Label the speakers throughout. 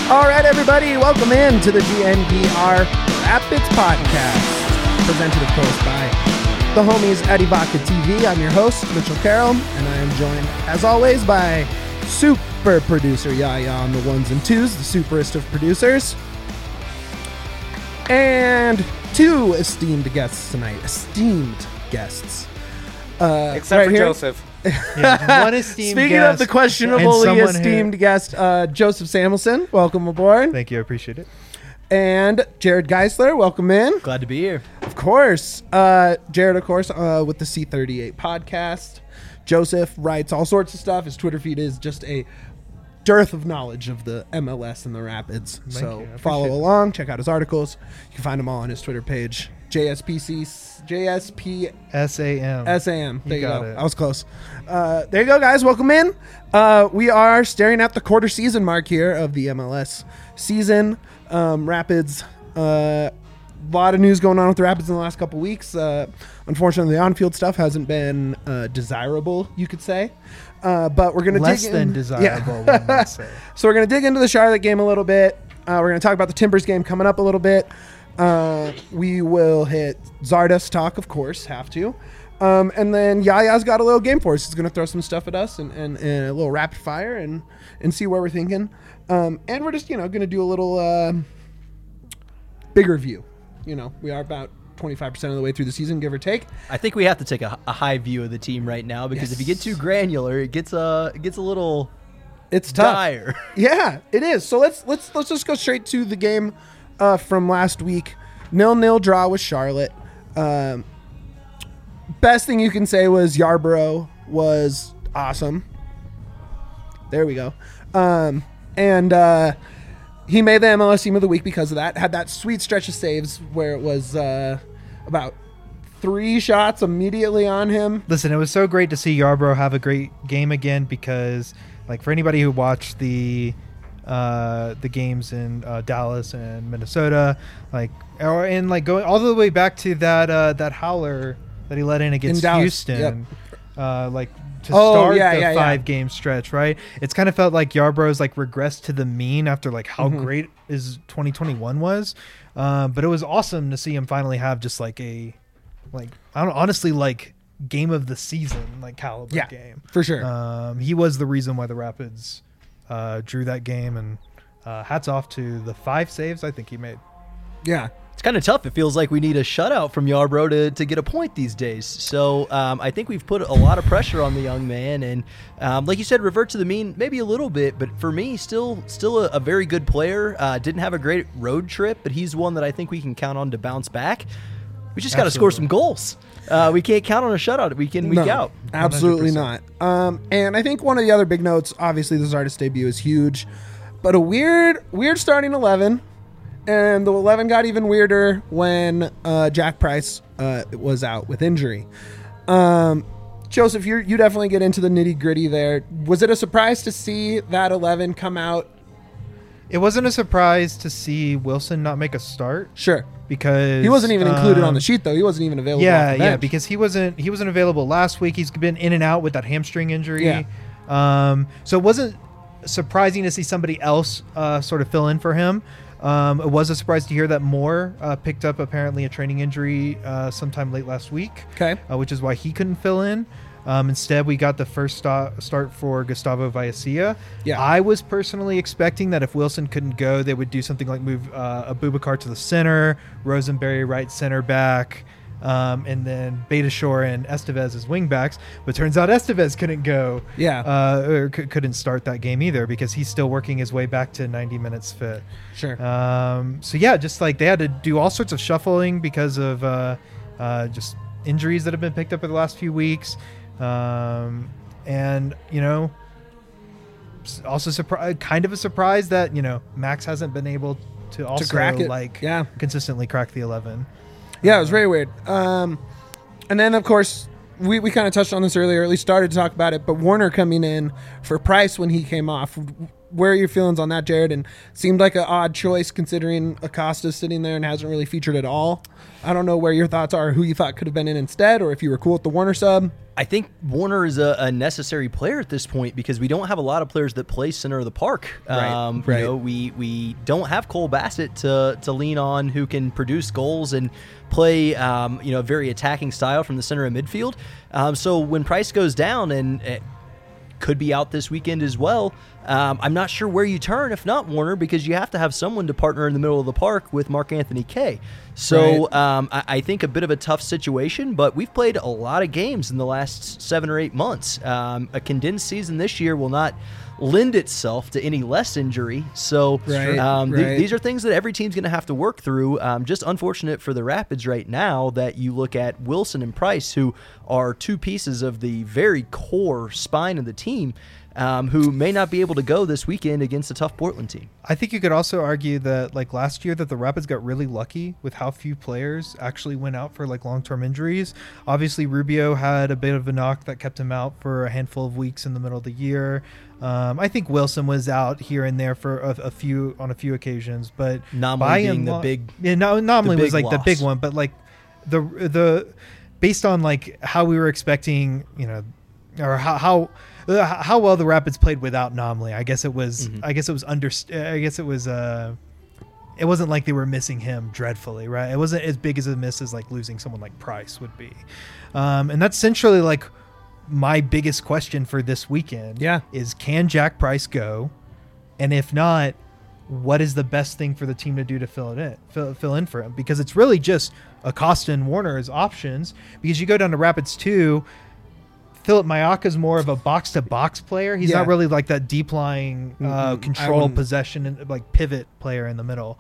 Speaker 1: All right, everybody, welcome in to the GNPR Rapids Podcast, presented, of course, by the homies at Evoca TV. I'm your host, Mitchell Carroll, and I am joined, as always, by super producer Yaya on the ones and twos, the superest of producers, and two esteemed guests tonight.
Speaker 2: Except
Speaker 1: right
Speaker 2: for
Speaker 1: here.
Speaker 2: Joseph.
Speaker 3: Yeah, one esteemed
Speaker 1: Speaking
Speaker 3: guest
Speaker 1: of the questionably
Speaker 3: and someone
Speaker 1: esteemed guest, Joseph Samuelson, welcome aboard.
Speaker 3: Thank you, I appreciate it.
Speaker 1: And Jared Geisler, welcome in.
Speaker 4: Glad to be here.
Speaker 1: Of course. Jared, of course, with the C38 podcast. Joseph writes all sorts of stuff. His Twitter feed is just a dearth of knowledge of the MLS and the Rapids.
Speaker 3: Thank
Speaker 1: So
Speaker 3: you. I
Speaker 1: follow
Speaker 3: appreciate it.
Speaker 1: along, check out his articles. You can find them all on his Twitter page, JSPSAM.
Speaker 3: SAM.
Speaker 1: There you
Speaker 3: got
Speaker 1: go.
Speaker 3: it.
Speaker 1: I was close. There you go, guys. Welcome in. We are staring at the quarter season mark here of the MLS season. Rapids, a lot of news going on with the Rapids in the last couple weeks. Unfortunately, the on-field stuff hasn't been desirable, you could say. But we're going to
Speaker 3: Less
Speaker 1: dig
Speaker 3: than
Speaker 1: in.
Speaker 3: desirable,
Speaker 1: Yeah.
Speaker 3: one might say.
Speaker 1: So we're going to dig into the Charlotte game a little bit. We're going to talk about the Timbers game coming up a little bit. We will hit Zardes talk, of course, have to. And then Yaya's got a little game for us. He's going to throw some stuff at us and a little rapid fire and see where we're thinking. And we're just, going to do a little bigger view. We are about 25% of the way through the season, give or take.
Speaker 4: I think we have to take a high view of the team right now because if you get too granular, it gets a little
Speaker 1: It's tough.
Speaker 4: dire.
Speaker 1: Yeah, it is. So let's just go straight to the game from last week. 0-0 draw with Charlotte. Best thing you can say was Yarbrough was awesome. There we go. And he made the MLS Team of the Week because of that. Had that sweet stretch of saves where it was about 3 shots immediately on him.
Speaker 3: Listen, it was so great to see Yarbrough have a great game again because, like, for anybody who watched the games in Dallas and Minnesota, going all the way back to that howler that he let in against
Speaker 1: Dallas,
Speaker 3: Houston,
Speaker 1: yep.
Speaker 3: To start the
Speaker 1: yeah.
Speaker 3: 5-game stretch, right? It's kind of felt like Yarbrough's regressed to the mean after how great his 2021 was, but it was awesome to see him finally have just honestly game of the season caliber game
Speaker 1: For sure.
Speaker 3: He was the reason why the Rapids drew that game, and hats off to the 5 saves I think he made.
Speaker 1: Yeah.
Speaker 4: It's kind of tough. It feels like we need a shutout from Yarbrough to get a point these days. So I think we've put a lot of pressure on the young man. And like you said, revert to the mean maybe a little bit. But for me, still a very good player. Didn't have a great road trip, but he's one that I think we can count on to bounce back. We just got to score some goals. We can't count on a shutout week in, week out.
Speaker 1: Absolutely
Speaker 3: 100%.
Speaker 1: not. And I think one of the other big notes, obviously the Zardes debut is huge, but a weird starting 11. And the 11 got even weirder when Jack Price was out with injury. Joseph, you definitely get into the nitty gritty there. Was it a surprise to see that 11 come out?
Speaker 3: It wasn't a surprise to see Wilson not make a start.
Speaker 1: Sure.
Speaker 3: Because
Speaker 1: He wasn't even included on the sheet, though. He wasn't even available. off the bench.
Speaker 3: Because he wasn't available last week. He's been in and out with that hamstring injury.
Speaker 1: Yeah.
Speaker 3: So it wasn't surprising to see somebody else sort of fill in for him. It was a surprise to hear that Moore picked up apparently a training injury sometime late last week.
Speaker 1: Okay.
Speaker 3: Which is why he couldn't fill in. Instead, we got the first start for Gustavo Vallecilla.
Speaker 1: Yeah.
Speaker 3: I was personally expecting that if Wilson couldn't go, they would do something like move Abubakar to the center, Rosenberry right center back, and then Betashore and Estevez as wing backs. But turns out Estevez couldn't go.
Speaker 1: Yeah.
Speaker 3: Or couldn't start that game either because he's still working his way back to 90 minutes fit.
Speaker 1: Sure.
Speaker 3: So yeah, just they had to do all sorts of shuffling because of just injuries that have been picked up in the last few weeks. And also kind of a surprise that Max hasn't been able to also
Speaker 1: crack it.
Speaker 3: consistently crack the 11.
Speaker 1: Yeah, it was very weird. And then, of course, we kind of touched on this earlier, at least started to talk about it, but Warner coming in for Price when he came off. where are your feelings on that, Jared? And seemed like an odd choice considering Acosta's sitting there and hasn't really featured at all. I don't know where your thoughts are, who you thought could have been in instead, or if you were cool with the Warner sub.
Speaker 4: I think Warner is a necessary player at this point because we don't have a lot of players that play center of the park.
Speaker 1: Right.
Speaker 4: You know, we don't have Cole Bassett to lean on who can produce goals and play a very attacking style from the center of midfield. So when Price goes down and could be out this weekend as well, I'm not sure where you turn if not Warner, because you have to have someone to partner in the middle of the park with Mark-Anthony Kaye. So I think a bit of a tough situation, but we've played a lot of games in the last 7 or 8 months. A condensed season this year will not lend itself to any less injury. So these are things that every team's going to have to work through. Just unfortunate for the Rapids right now that you look at Wilson and Price, who are two pieces of the very core spine of the team, who may not be able to go this weekend against a tough Portland team.
Speaker 3: I think you could also argue that like last year that the Rapids got really lucky with how few players actually went out for like long-term injuries. Obviously Rubio had a bit of a knock that kept him out for a handful of weeks in the middle of the year. I think Wilson was out here and there for a few occasions, but
Speaker 4: Nomley being the big,
Speaker 3: Nomley was like
Speaker 4: loss.
Speaker 3: the big one, but like the based on like how we were expecting, or how well the Rapids played without Nomley. I guess it was it wasn't like they were missing him dreadfully, right? It wasn't as big as a miss as like losing someone like Price would be. And that's essentially like my biggest question for this weekend. Is can Jack Price go? And if not, what is the best thing for the team to do to fill in for him? Because it's really just Acosta and Warner as options, because you go down to Rapids 2, Philip Mayaka's more of a box-to-box player. He's not really like that deep-lying control possession and like pivot player in the middle.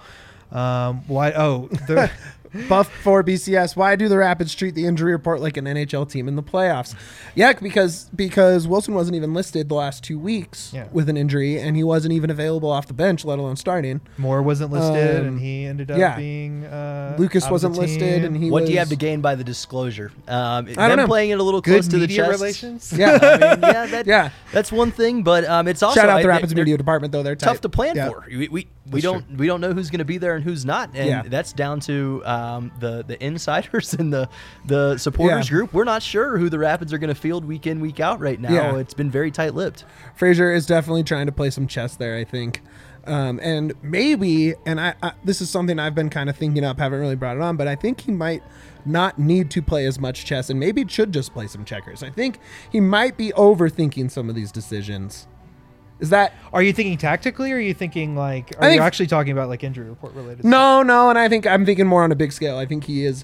Speaker 1: Buff for BCS. Why do the Rapids treat the injury report like an NHL team in the playoffs? Yeah, because Wilson wasn't even listed the last 2 weeks with an injury, and he wasn't even available off the bench, let alone starting.
Speaker 3: Moore wasn't listed, and he ended up being
Speaker 1: Lucas wasn't listed, and he.
Speaker 4: What do you have to gain by the disclosure?
Speaker 1: I don't know.
Speaker 4: Playing it a little close to the
Speaker 3: media
Speaker 4: chest.
Speaker 3: Relations.
Speaker 4: That's one thing, but it's also
Speaker 1: shout out the Rapids media department though. They're
Speaker 4: tough
Speaker 1: tight.
Speaker 4: to plan for. We don't know who's going to be there and who's not, and that's down to the insiders and the supporters group. We're not sure who the Rapids are going to field week in, week out right now. It's been very tight-lipped.
Speaker 1: Frazier is definitely trying to play some chess there, I think. And maybe, and I this is something I've been kind of thinking up, haven't really brought it on, but I think he might not need to play as much chess and maybe should just play some checkers. I think he might be overthinking some of these decisions. Are
Speaker 3: you thinking tactically, or are you thinking like? Are you actually talking about like injury report related?
Speaker 1: No, and I'm thinking more on a big scale. I think he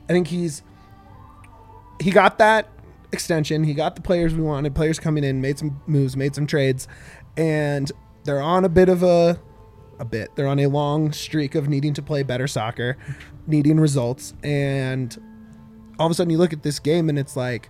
Speaker 1: got that extension. He got the players we wanted. Players coming in, made some moves, made some trades, and they're on They're on a long streak of needing to play better soccer, needing results, and all of a sudden you look at this game and it's like,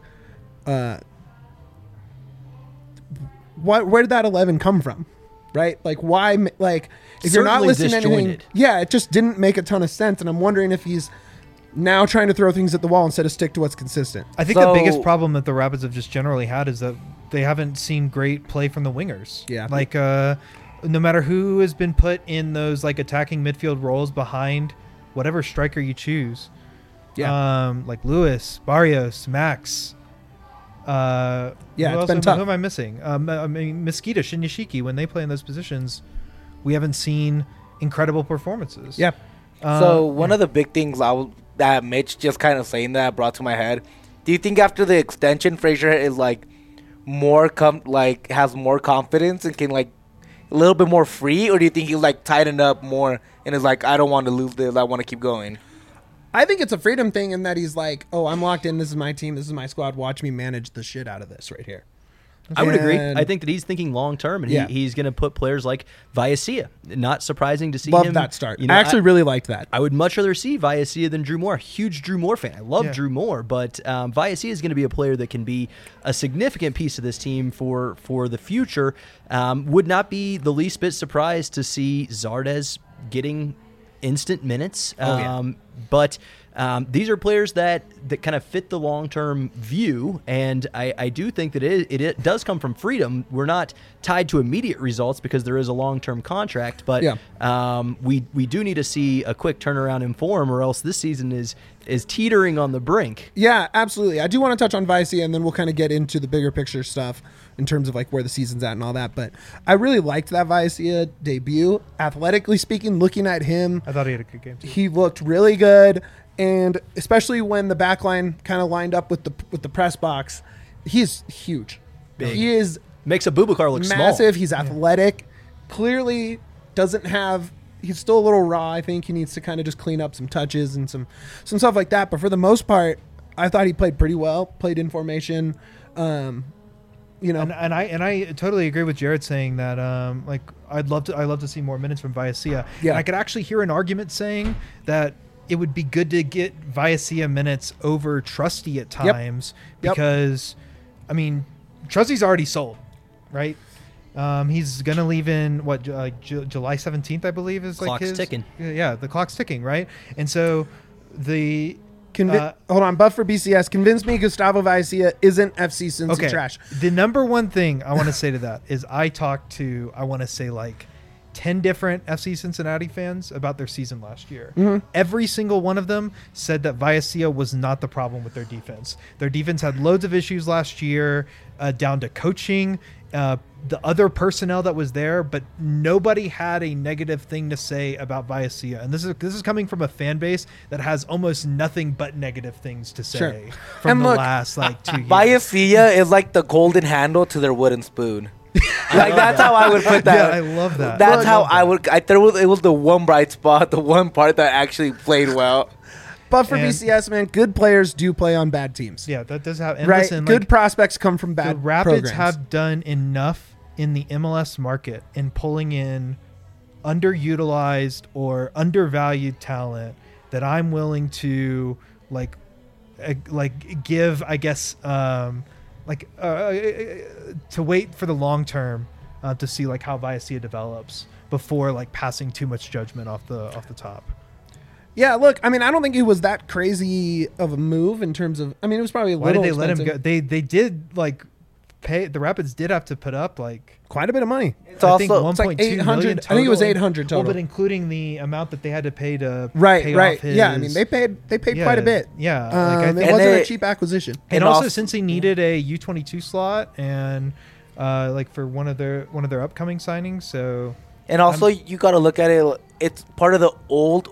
Speaker 1: where did that 11 come from, right? Like why? Like if you're not listening to anything, it just didn't make a ton of sense. And I'm wondering if he's now trying to throw things at the wall instead of stick to what's consistent.
Speaker 3: I think the biggest problem that the Rapids have just generally had is that they haven't seen great play from the wingers.
Speaker 1: Yeah,
Speaker 3: like no matter who has been put in those like attacking midfield roles behind whatever striker you choose. Like Lewis, Barrios, Max.
Speaker 1: It's been tough.
Speaker 3: Who am I missing? I mean, Mosquito, Shinyashiki, when they play in those positions, we haven't seen incredible performances.
Speaker 2: So one of the big things that Mitch just kind of saying that brought to my head, do you think after the extension, Frazier is like has more confidence and can like a little bit more free, or do you think he's like tightened up more and is like, I don't want to lose this, I want to keep going?
Speaker 1: I think it's a freedom thing in that he's like, oh, I'm locked in. This is my team. This is my squad. Watch me manage the shit out of this right here.
Speaker 4: I would agree. I think that he's thinking long term, and he's going to put players like Viacia. Not surprising to see him.
Speaker 1: Love that start. I actually really liked that.
Speaker 4: I would much rather see Viacia than Drew Moore. Huge Drew Moore fan. I love Drew Moore, but Viacia is going to be a player that can be a significant piece of this team for the future. Would not be the least bit surprised to see Zardes getting instant minutes. But these are players that kind of fit the long-term view, and I do think that it does come from freedom. We're not tied to immediate results because there is a long-term contract, but we do need to see a quick turnaround in form, or else this season is teetering on the brink.
Speaker 1: Yeah, absolutely. I do want to touch on Vicia, and then we'll kind of get into the bigger picture stuff in terms of like where the season's at and all that. But I really liked that Vicia debut. Athletically speaking, looking at him,
Speaker 3: I thought he had a good game too.
Speaker 1: he looked really good. And especially when the back line kind of lined up with the press box, he's huge.
Speaker 4: Big.
Speaker 1: He is
Speaker 4: Makes Abubakar look
Speaker 1: massive.
Speaker 4: small.
Speaker 1: He's athletic. Clearly doesn't have. He's still a little raw. I think he needs to kind of just clean up some touches and some stuff like that. But for the most part, I thought he played pretty well. Played in formation. And
Speaker 3: I totally agree with Jared saying that like I'd love to see more minutes from Vicia.
Speaker 1: Yeah.
Speaker 3: And I could actually hear an argument saying that it would be good to get Vicia minutes over Trusty at times because, I mean, Trusty's already sold, right? He's going to leave in, July 17th, I believe, is like
Speaker 4: Clock's ticking.
Speaker 3: Yeah, the clock's ticking, right? And so the...
Speaker 1: hold on, Buff for BCS. Convince me Gustavo Vicia isn't FC Cincy trash.
Speaker 3: The number one thing I want to say to that is I talked to, I want to say like 10 different FC Cincinnati fans about their season last year.
Speaker 1: Mm-hmm.
Speaker 3: Every single one of them said that Vicia was not the problem with their defense. Their defense had loads of issues last year, down to coaching, the other personnel that was there, but nobody had a negative thing to say about Vicia. And this is coming from a fan base that has almost nothing but negative things to say from the last like 2 years.
Speaker 2: Vicia is like the golden handle to their wooden spoon. Like that's how I would put that.
Speaker 3: Yeah, I love that.
Speaker 2: That's how I would. I thought it was the one bright spot, the one part that actually played well.
Speaker 1: But for BCS, man, good players do play on bad teams.
Speaker 3: Yeah, that does have. And
Speaker 1: right,
Speaker 3: listen,
Speaker 1: good
Speaker 3: like,
Speaker 1: prospects come from bad.
Speaker 3: The Rapids
Speaker 1: programs.
Speaker 3: have done enough in the MLS market in pulling in underutilized or undervalued talent that I'm willing to give, I guess, to wait for the long term to see like how Vicia develops before like passing too much judgment off the top.
Speaker 1: Yeah, look, I mean, I don't think it was that crazy of a move in terms of. I mean, it was probably a
Speaker 3: Why
Speaker 1: little.
Speaker 3: did they let him
Speaker 1: expensive.
Speaker 3: go? They did like pay. The Rapids did have to put up like
Speaker 1: Quite a bit of money.
Speaker 2: It's
Speaker 3: I think
Speaker 2: also
Speaker 3: 1.2
Speaker 1: like 800
Speaker 3: million
Speaker 1: I think it was
Speaker 3: total.
Speaker 1: 800 total.
Speaker 3: Well, but including the amount that they had to pay to
Speaker 1: Right.
Speaker 3: pay off his,
Speaker 1: Yeah, I mean, they paid quite a bit.
Speaker 3: Yeah,
Speaker 1: It
Speaker 3: think-
Speaker 1: wasn't a
Speaker 2: it-
Speaker 1: cheap acquisition.
Speaker 3: and
Speaker 2: and
Speaker 3: also
Speaker 2: also-
Speaker 3: since he needed a U22 slot and like for one of their upcoming signings, so
Speaker 2: And also, you got to look at it. It's part of the old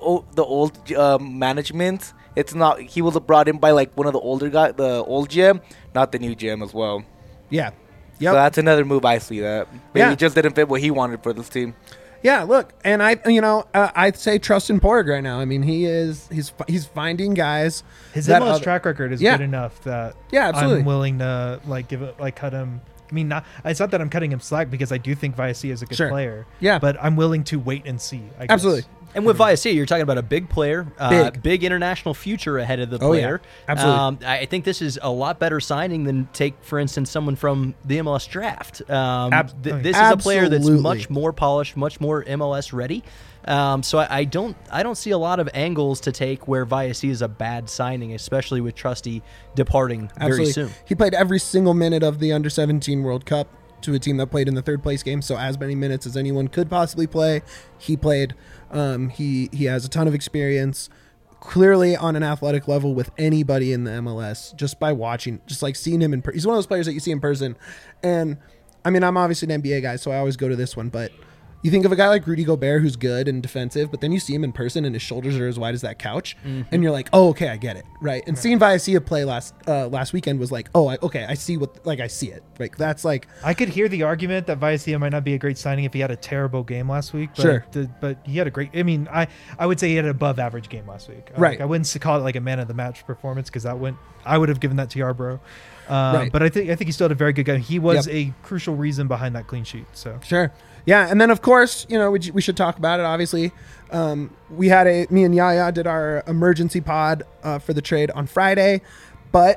Speaker 2: management. It's not. He was brought in by like one of the older guys, the old GM, not the new GM as well.
Speaker 1: Yeah.
Speaker 2: So that's another move. I see that. Maybe
Speaker 1: Yeah.
Speaker 2: it just didn't fit what he wanted for this team.
Speaker 1: Yeah, look, and I'd say trust in Porg right now. I mean, he's finding guys.
Speaker 3: his
Speaker 1: that
Speaker 3: MLS
Speaker 1: other-
Speaker 3: track record is
Speaker 1: Yeah.
Speaker 3: good enough that
Speaker 1: Yeah, absolutely.
Speaker 3: I'm willing to like give it like cut him. I mean, it's not that I'm cutting him slack because I do think Vicia is a good
Speaker 1: Sure.
Speaker 3: player.
Speaker 1: Yeah.
Speaker 3: but I'm willing to wait and see. I guess.
Speaker 1: Absolutely.
Speaker 4: And with Vicia, you're talking about a big player, big international future ahead of the
Speaker 1: Oh, yeah.
Speaker 4: player.
Speaker 1: Absolutely.
Speaker 4: I think this is a lot better signing than take, for instance, someone from the MLS draft. This is a player that's
Speaker 1: Absolutely.
Speaker 4: much more polished, much more MLS ready. So I don't see a lot of angles to take where Vicia is a bad signing, especially with Trusty departing very soon.
Speaker 1: He played every single minute of the Under-17 World Cup to a team that played in the third place game, so as many minutes as anyone could possibly play, he played. He has a ton of experience, clearly on an athletic level with anybody in the MLS, just by watching, just like seeing him in person. He's one of those players that you see in person. And I mean, I'm obviously an NBA guy, so I always go to this one, but you think of a guy like Rudy Gobert who's good and defensive, but then you see him in person and his shoulders are as wide as that couch, and you're like, oh, okay, I get it, right? And seeing Vicia play last weekend was like, oh, I see I see it. Like that's like,
Speaker 3: I could hear the argument that Vicia might not be a great signing if he had a terrible game last week. But
Speaker 1: Sure.
Speaker 3: but he had a great. I mean, I would say he had an above average game last week.
Speaker 1: Right.
Speaker 3: I wouldn't call it like a man of the match performance because I would have given that to Yarbrough.
Speaker 1: Right.
Speaker 3: But I think he still had a very good game. He was
Speaker 1: Yep.
Speaker 3: a crucial reason behind that clean sheet. So
Speaker 1: sure. Yeah, and then of course, we should talk about it. Obviously, me and Yaya did our emergency pod for the trade on Friday, but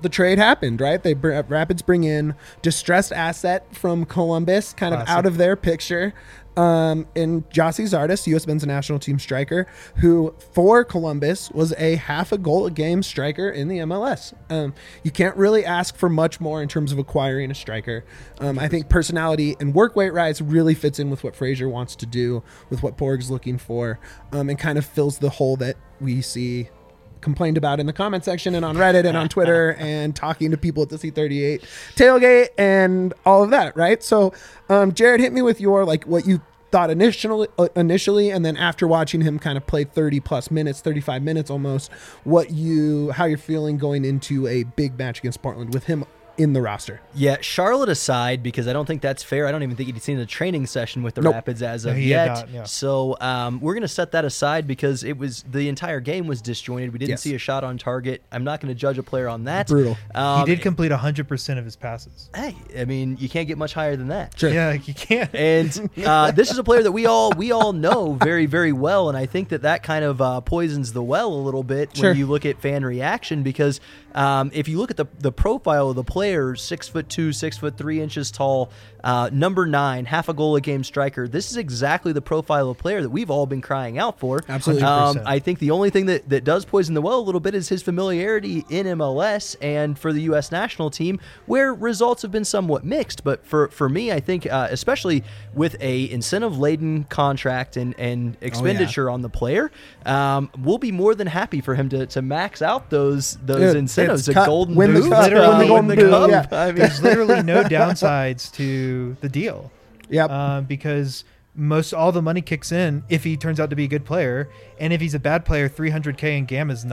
Speaker 1: the trade happened, right? Rapids bring in distressed asset from Columbus, kind of
Speaker 3: Classic.
Speaker 1: out of their picture. In Jossie Zardes, U.S. men's national team striker, who for Columbus was a half a goal a game striker in the MLS. You can't really ask for much more in terms of acquiring a striker. I think personality and work weight rise really fits in with what Fraser wants to do, with what Porg's looking for, and kind of fills the hole that we see complained about in the comment section and on Reddit and on Twitter and talking to people at the C38 tailgate and all of that, right? So, Jared, hit me with your, like, what you thought initially, and then after watching him kind of play 30 plus minutes, 35 minutes almost, how you're feeling going into a big match against Portland with him in the roster.
Speaker 4: Yeah, Charlotte aside, because I don't think that's fair. I don't even think he'd seen a training session with the
Speaker 1: Nope.
Speaker 4: Rapids as
Speaker 3: No,
Speaker 4: of
Speaker 3: he had
Speaker 4: yet.
Speaker 3: not, yeah.
Speaker 4: So we're going to set that aside because the entire game was disjointed. We didn't
Speaker 1: Yes.
Speaker 4: see a shot on target. I'm not going to judge a player on that.
Speaker 1: Brutal.
Speaker 3: He did complete 100% of his passes.
Speaker 4: Hey, I mean, you can't get much higher than that.
Speaker 1: Sure.
Speaker 3: Yeah, like you can't.
Speaker 4: And this is a player that we all know very, very well, and I think that kind of poisons the well a little bit
Speaker 1: Sure.
Speaker 4: when you look at fan reaction, because if you look at the profile of the player, 6'2", 6'3" tall, number 9, half a goal a game striker. This is exactly the profile of player that we've all been crying out for.
Speaker 1: Absolutely.
Speaker 3: 100%.
Speaker 4: I think the only thing that does poison the well a little bit is his familiarity in MLS and for the U.S. national team, where results have been somewhat mixed. But for me, I think especially with a incentive-laden contract and expenditure on the player, we'll be more than happy for him to max out those
Speaker 1: Dude,
Speaker 4: incentives.
Speaker 1: it's
Speaker 4: A
Speaker 1: cut.
Speaker 4: golden
Speaker 1: Win the
Speaker 4: boot,
Speaker 1: cup.
Speaker 3: Literally
Speaker 1: Win the golden boot.
Speaker 4: cup.
Speaker 1: Yeah.
Speaker 4: I mean,
Speaker 3: There's literally no downsides to the deal.
Speaker 1: Yep.
Speaker 3: Because all the money kicks in if he turns out to be a good player, and if he's a bad player, $300K in GAM is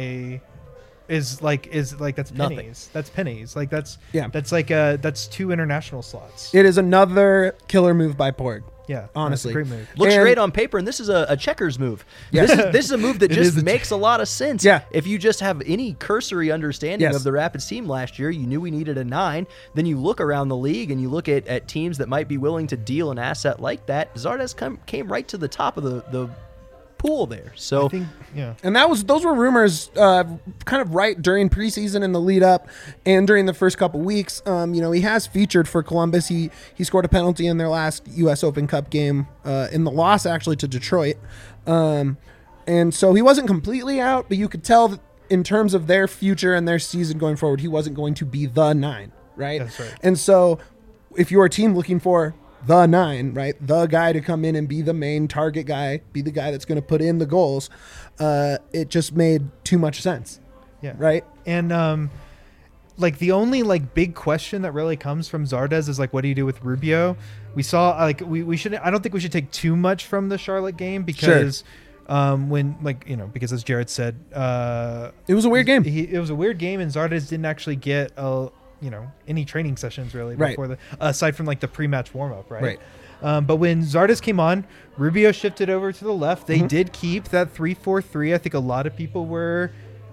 Speaker 3: that's
Speaker 4: Nothing.
Speaker 3: pennies. That's pennies. Like that's
Speaker 1: Yeah.
Speaker 3: that's 2 international slots.
Speaker 1: It is another killer move by Porg.
Speaker 3: Yeah,
Speaker 1: honestly.
Speaker 3: that's a great move.
Speaker 4: looks
Speaker 1: And-
Speaker 4: great on paper, and this is a checkers move.
Speaker 1: Yeah.
Speaker 4: This is a move that
Speaker 3: It
Speaker 4: just
Speaker 3: is
Speaker 4: makes a lot of sense.
Speaker 1: Yeah.
Speaker 4: If you just have any cursory understanding
Speaker 1: Yes.
Speaker 4: of the Rapids team last year, you knew we needed a 9. Then you look around the league and you look at teams that might be willing to deal an asset like that. Zardes came right to the top of the pool there. So
Speaker 3: I think, yeah.
Speaker 1: And those were rumors kind of right during preseason and the lead up and during the first couple weeks. He has featured for Columbus. He scored a penalty in their last U.S. Open Cup game in the loss actually to Detroit. And so he wasn't completely out, but you could tell that in terms of their future and their season going forward, he wasn't going to be the 9, right?
Speaker 3: That's right.
Speaker 1: And so if you're a team looking for the 9, right, the guy to come in and be the main target guy, be the guy that's going to put in the goals, it just made too much sense.
Speaker 3: Yeah.
Speaker 1: Right.
Speaker 3: And the only big question that really comes from Zardes is what do you do with Rubio? We saw we shouldn't. I don't think we should take too much from the Charlotte game because because as Jared said,
Speaker 1: It was a weird game.
Speaker 3: It was a weird game, and Zardes didn't actually get any training sessions really
Speaker 1: Right.
Speaker 3: before aside from the pre-match warm-up, right?
Speaker 1: Right.
Speaker 3: But when Zardes came on, Rubio shifted over to the left. They
Speaker 1: Mm-hmm.
Speaker 3: did keep that 3-4-3. I think a lot of people were,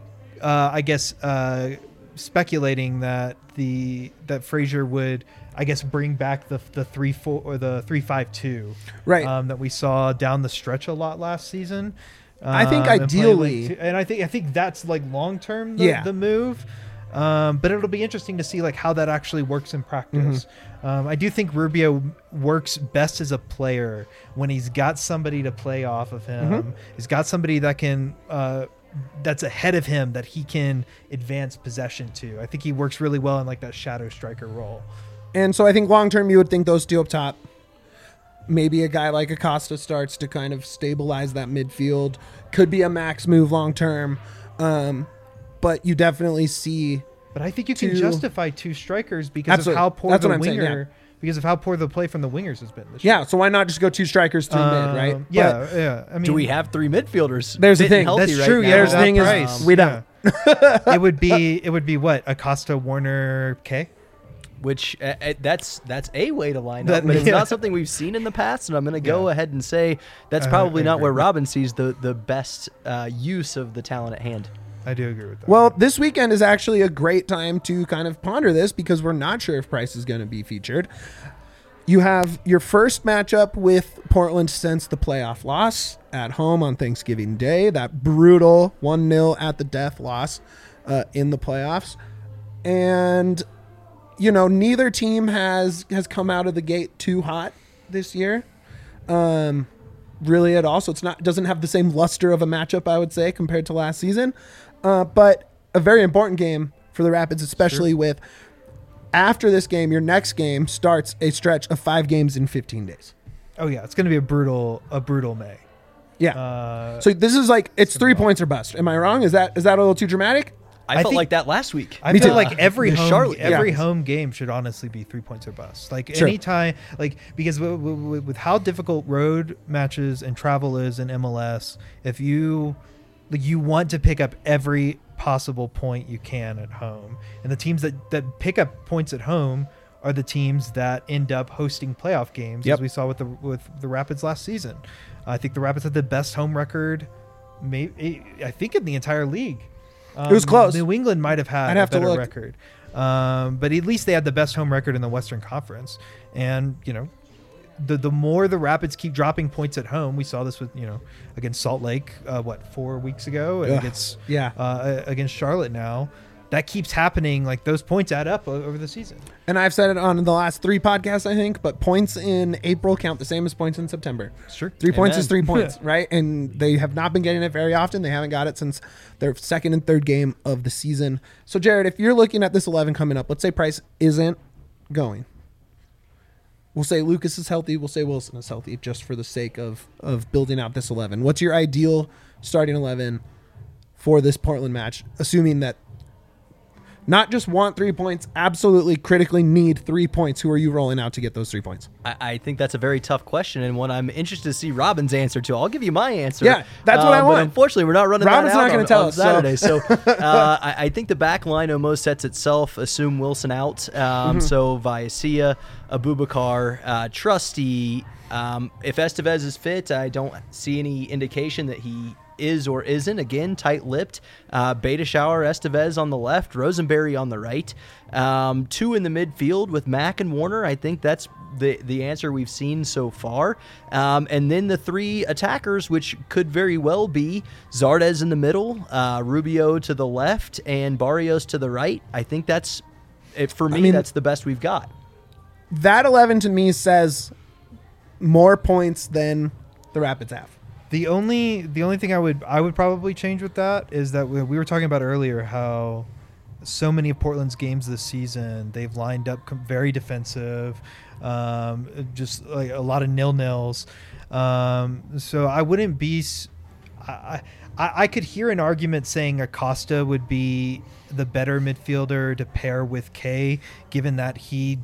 Speaker 3: speculating that Fraser would, bring back the 3-4 or the 3-5-2,
Speaker 1: Right.
Speaker 3: that we saw down the stretch a lot last season.
Speaker 1: I think
Speaker 3: and play
Speaker 1: ideally-
Speaker 3: I think that's long term
Speaker 1: Yeah.
Speaker 3: the move. But it'll be interesting to see how that actually works in practice. I do think Rubio works best as a player when he's got somebody to play off of him. He's got somebody that can that's ahead of him that he can advance possession to. I think he works really well in that shadow striker role.
Speaker 1: And so I think long term, you would think those two up top. Maybe a guy like Acosta starts to kind of stabilize that midfield. Could be a max move long term. But you definitely see.
Speaker 3: But I think you can
Speaker 1: Two-
Speaker 3: justify 2 strikers because
Speaker 1: Absolutely.
Speaker 3: of how poor
Speaker 1: That's
Speaker 3: the
Speaker 1: what I'm saying,
Speaker 3: winger, because of how poor the play from the wingers has been this year.
Speaker 1: Yeah, so why not just go 2 strikers, 3 mid, right?
Speaker 3: Yeah, yeah. I mean,
Speaker 4: do we have 3 midfielders?
Speaker 1: There's the
Speaker 4: fit and
Speaker 1: thing.
Speaker 4: healthy
Speaker 3: That's
Speaker 4: right
Speaker 3: true.
Speaker 4: now?
Speaker 3: Yeah,
Speaker 1: There's the
Speaker 3: that
Speaker 1: thing is
Speaker 3: price.
Speaker 1: we don't.
Speaker 3: it would be what? Acosta, Warner, K.
Speaker 4: Which that's a way to line
Speaker 3: That-
Speaker 4: up, but it's
Speaker 3: yeah.
Speaker 4: not something we've seen in the past. And I'm going to go
Speaker 3: Yeah.
Speaker 4: ahead and say that's
Speaker 3: I
Speaker 4: probably not
Speaker 3: agree.
Speaker 4: where Robin sees the best use of the talent at hand.
Speaker 3: I do agree with that.
Speaker 1: Well, this weekend is actually a great time to kind of ponder this because we're not sure if Price is going to be featured. You have your first matchup with Portland since the playoff loss at home on Thanksgiving Day, that brutal 1-0 at the death loss in the playoffs. and neither team has come out of the gate too hot this year, really at all. So doesn't have the same luster of a matchup, I would say, compared to last season. But a very important game for the Rapids, especially with after this game, your next game starts a stretch of 5 games in 15 days.
Speaker 3: Oh yeah, it's going to be a brutal May.
Speaker 1: Yeah. So this is it's 3 points or bust. Am I wrong? Is that a little too dramatic?
Speaker 4: I felt like that last week.
Speaker 3: I feel like every
Speaker 4: Charlotte,
Speaker 3: home game should honestly be 3 points or bust.
Speaker 1: Sure.
Speaker 3: Anytime, because with how difficult road matches and travel is in MLS, if you want to pick up every possible point you can at home, and the teams that pick up points at home are the teams that end up hosting playoff games, as we saw with the Rapids last season. I think the Rapids had the best home record, I think, in the entire league.
Speaker 1: It was close.
Speaker 3: New England might have had a better record, but at least they had the best home record in the Western Conference. And the more the Rapids keep dropping points at home, we saw this with against Salt Lake 4 weeks ago, and against Charlotte now. That keeps happening. Those points add up over the season. And
Speaker 1: I've said it on the last 3 podcasts, I think, but points in April count the same as points in September.
Speaker 3: Sure.
Speaker 1: 3 points is 3 points, right? And they have not been getting it very often. They haven't got it since their second and third game of the season. So, Jared, if you're looking at this 11 coming up, let's say Price isn't going. We'll say Lucas is healthy. We'll say Wilson is healthy, just for the sake of building out this 11. What's your ideal starting 11 for this Portland match, assuming that not just want 3 points, absolutely critically need 3 points? Who are you rolling out to get those 3 points?
Speaker 4: I think that's a very tough question, and one I'm interested to see Robin's answer to. I'll give you my answer.
Speaker 1: Yeah, that's what I want.
Speaker 4: But unfortunately, we're not running
Speaker 1: Robin's
Speaker 4: that out
Speaker 1: not going to tell
Speaker 4: on
Speaker 1: us
Speaker 4: Saturday. So I think the back line almost sets itself. Assume Wilson out. So Viacia, Abubakar, Trusty. If Estevez is fit, I don't see any indication that he is or isn't. Again, tight-lipped. Beta Shower, Estevez on the left, Rosenberry on the right. 2 in the midfield with Mack and Warner. I think that's the answer we've seen so far. And then the 3 attackers, which could very well be Zardes in the middle, Rubio to the left, and Barrios to the right. I think that's, for me, that's the best we've got.
Speaker 1: That 11 to me says more points than the Rapids have.
Speaker 3: The only thing I would probably change with that is that we were talking about earlier how so many of Portland's games this season, they've lined up very defensive, just like a lot of nil-nils. So I wouldn't be. I could hear an argument saying Acosta would be the better midfielder to pair with Kay, given that he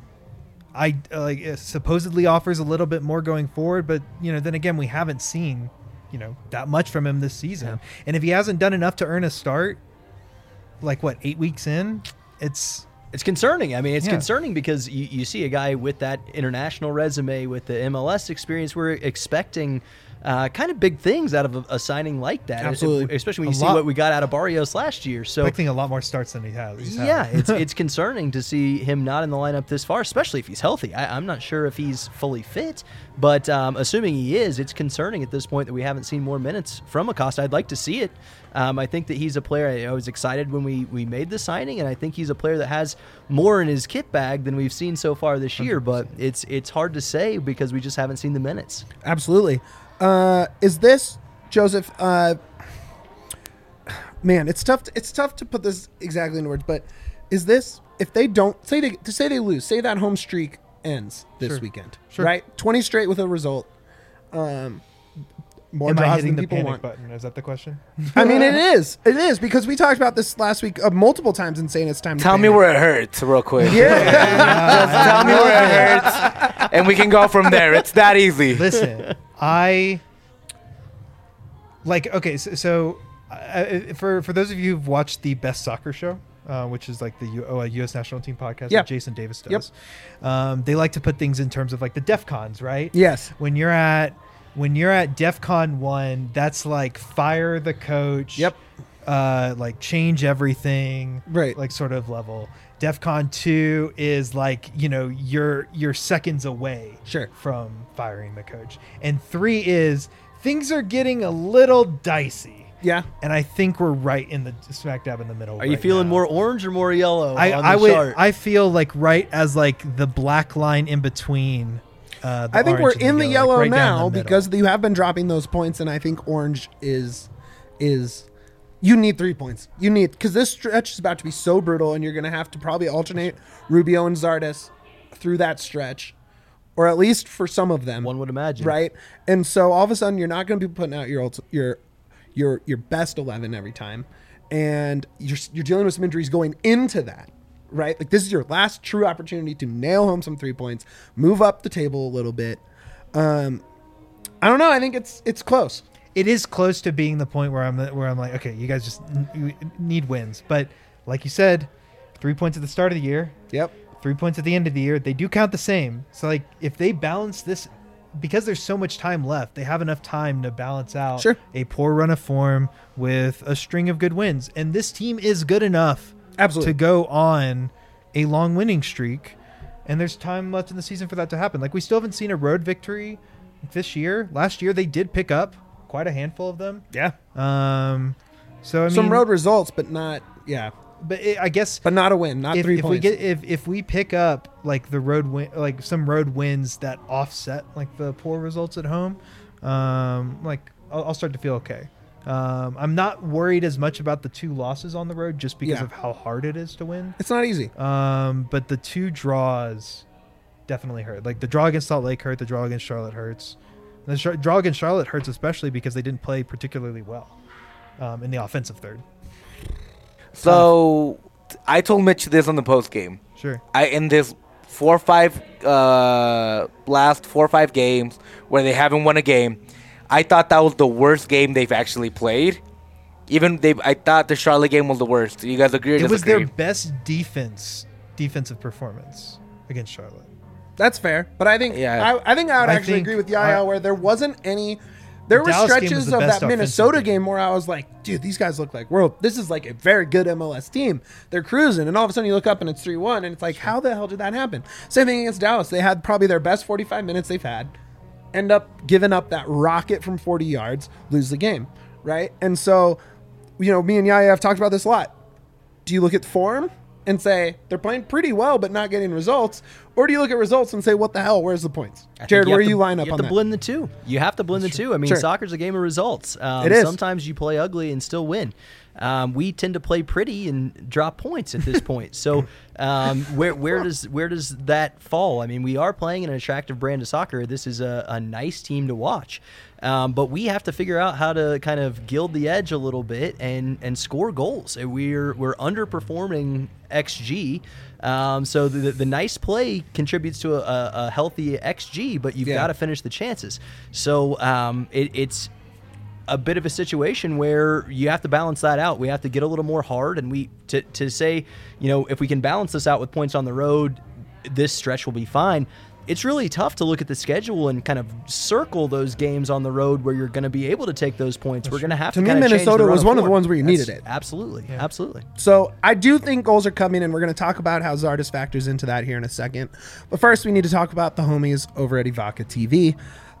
Speaker 3: supposedly offers a little bit more going forward. But then again, we haven't seen that much from him this season. Yeah. And if he hasn't done enough to earn a start, 8 weeks in, it's
Speaker 4: concerning. I mean, it's concerning because you see a guy with that international resume, with the MLS experience. We're expecting kind of big things out of a signing like that.
Speaker 1: Absolutely.
Speaker 4: Especially when you see what we got out of Barrios last year. So
Speaker 3: expecting a lot more starts than he has.
Speaker 4: It's concerning to see him not in the lineup this far, especially if he's healthy. I'm not sure if he's fully fit, but assuming he is, it's concerning at this point that we haven't seen more minutes from Acosta. I'd like to see it. I think that he's a player. I was excited when we made the signing, and I think he's a player that has more in his kit bag than we've seen so far this year. 100%. But it's hard to say because we just haven't seen the minutes.
Speaker 1: Absolutely. Is this, Joseph, man, it's tough to put this exactly in words, but is this, if they don't, say they lose, say that home streak ends this weekend, right? 20 straight with a result. More draws than people want.
Speaker 3: Button? Is that the question?
Speaker 1: I mean, it is because we talked about this last week multiple times and saying it's time to
Speaker 2: tell me where it hurts real quick.
Speaker 1: Yeah.
Speaker 2: Just tell me where it hurts and we can go from there. It's that easy.
Speaker 3: Listen, for those of you who've watched the Best Soccer Show, which is like the U.S. national team podcast that Jason Davis does, they like to put things in terms of like the DEF CONs, right?
Speaker 1: Yes.
Speaker 3: When you're at DEF CON 1, that's like fire the coach.
Speaker 1: Yep.
Speaker 3: Like change everything.
Speaker 1: Right.
Speaker 3: Like sort of level. DEF CON 2 is like, you're seconds away from firing the coach. And 3 is things are getting a little dicey.
Speaker 1: Yeah.
Speaker 3: And I think we're right in the smack dab in the middle.
Speaker 4: Are you feeling more orange or more yellow?
Speaker 3: I feel like right as like the black line in between.
Speaker 1: I think we're in the yellow
Speaker 3: right down
Speaker 1: now
Speaker 3: the middle.
Speaker 1: because you have been dropping those points, and I think orange is you need 3 points. You need, because this stretch is about to be so brutal, and you're going to have to probably alternate Rubio and Zardes through that stretch, or at least for some of them.
Speaker 4: One would imagine,
Speaker 1: right? And so all of a sudden, you're not going to be putting out your best 11 every time, and you're dealing with some injuries going into that. Right? Like, this is your last true opportunity to nail home some 3 points, move up the table a little bit. I don't know. I think it's close.
Speaker 3: It is close to being the point where I'm like, okay, you guys just need wins. But like you said, 3 points at the start of the year.
Speaker 1: Yep.
Speaker 3: 3 points at the end of the year. They do count the same. So like, if they balance this, because there's so much time left, they have enough time to balance out a poor run of form with a string of good wins. And this team is good enough.
Speaker 1: Absolutely.
Speaker 3: To go on a long winning streak, and there's time left in the season for that to happen. Like, we still haven't seen a road victory this year. Last year they did pick up quite a handful of them.
Speaker 1: Yeah.
Speaker 3: So I mean,
Speaker 1: some road results, but not
Speaker 3: I guess,
Speaker 1: but not a win, not 3 points.
Speaker 3: If we pick up like the road win, like some road wins that offset like the poor results at home, like I'll start to feel okay. I'm not worried as much about the 2 losses on the road just because of how hard it is to win.
Speaker 1: It's not easy.
Speaker 3: But the 2 draws definitely hurt. Like the draw against Salt Lake hurt. The draw against Charlotte hurts. The draw against Charlotte hurts especially because they didn't play particularly well in the offensive third.
Speaker 2: So I told Mitch this on the post game.
Speaker 3: Sure.
Speaker 2: In this last 4 or 5 games where they haven't won a game, I thought that was the worst game they've actually played. I thought the Charlotte game was the worst. Do you guys agree or disagree?
Speaker 3: It was their best defensive performance against Charlotte.
Speaker 1: That's fair, but I think I think I would actually agree with Yaya where there wasn't any. There were stretches of that Minnesota game where I was like, dude, these guys look like this is like a very good MLS team. They're cruising, and all of a sudden you look up and it's 3-1, and it's like, how the hell did that happen? Same thing against Dallas. They had probably their best 45 minutes they've had. End up giving up that rocket from 40 yards, lose the game, right? And so, me and Yaya have talked about this a lot. Do you look at form and say they're playing pretty well but not getting results? Or do you look at results and say, what the hell, where's the points? Jared, where do you line up on that?
Speaker 4: You have to blend the two. You have to blend the two. I mean, soccer's a game of results.
Speaker 1: It is.
Speaker 4: Sometimes you play ugly and still win. We tend to play pretty and drop points at this point. So where does that fall? I mean, we are playing an attractive brand of soccer. This is a nice team to watch. But we have to figure out how to kind of gild the edge a little bit and score goals. We're underperforming XG. So the nice play contributes to a healthy XG, but you've got to finish the chances. So it's a bit of a situation where you have to balance that out. We have to get a little more hard, and to say, if we can balance this out with points on the road, this stretch will be fine. It's really tough to look at the schedule and kind of circle those games on the road where you're going to be able to take those points. We're going to have to.
Speaker 1: To me, Minnesota was one of the ones where you needed it.
Speaker 4: Absolutely, absolutely.
Speaker 1: So I do think goals are coming, and we're going to talk about how Zardes factors into that here in a second. But first, we need to talk about the homies over at Evoca TV.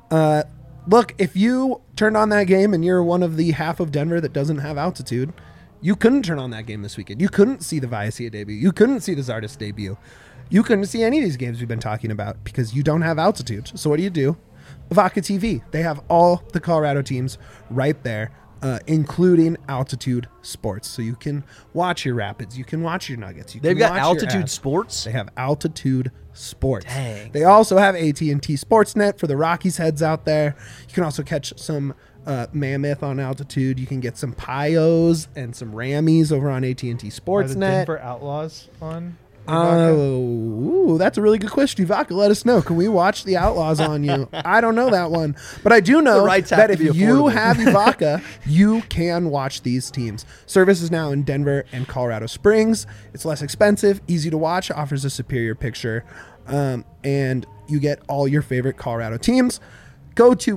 Speaker 1: Look, if you turned on that game and you're one of the half of Denver that doesn't have altitude, you couldn't turn on that game this weekend. You couldn't see the Viacia debut. You couldn't see the Zardes debut. You couldn't see any of these games we've been talking about because you don't have altitude. So what do? Evoca TV. They have all the Colorado teams right there, including Altitude Sports. So you can watch your Rapids. You can watch your Nuggets.
Speaker 4: They've got Altitude Sports?
Speaker 1: They have Altitude Sports.
Speaker 4: Dang.
Speaker 1: They also have AT&T Sportsnet for the Rockies heads out there. You can also catch some Mammoth on Altitude. You can get some Pios and some Rammies over on AT&T Sportsnet.
Speaker 3: Are the Denver Outlaws on?
Speaker 1: Oh, that's a really good question. Evoca, let us know. Can we watch the Outlaws on you? I don't know that one. But I do know that if you have Evoca, you can watch these teams. Service is now in Denver and Colorado Springs. It's less expensive, easy to watch, offers a superior picture, and you get all your favorite Colorado teams. Go to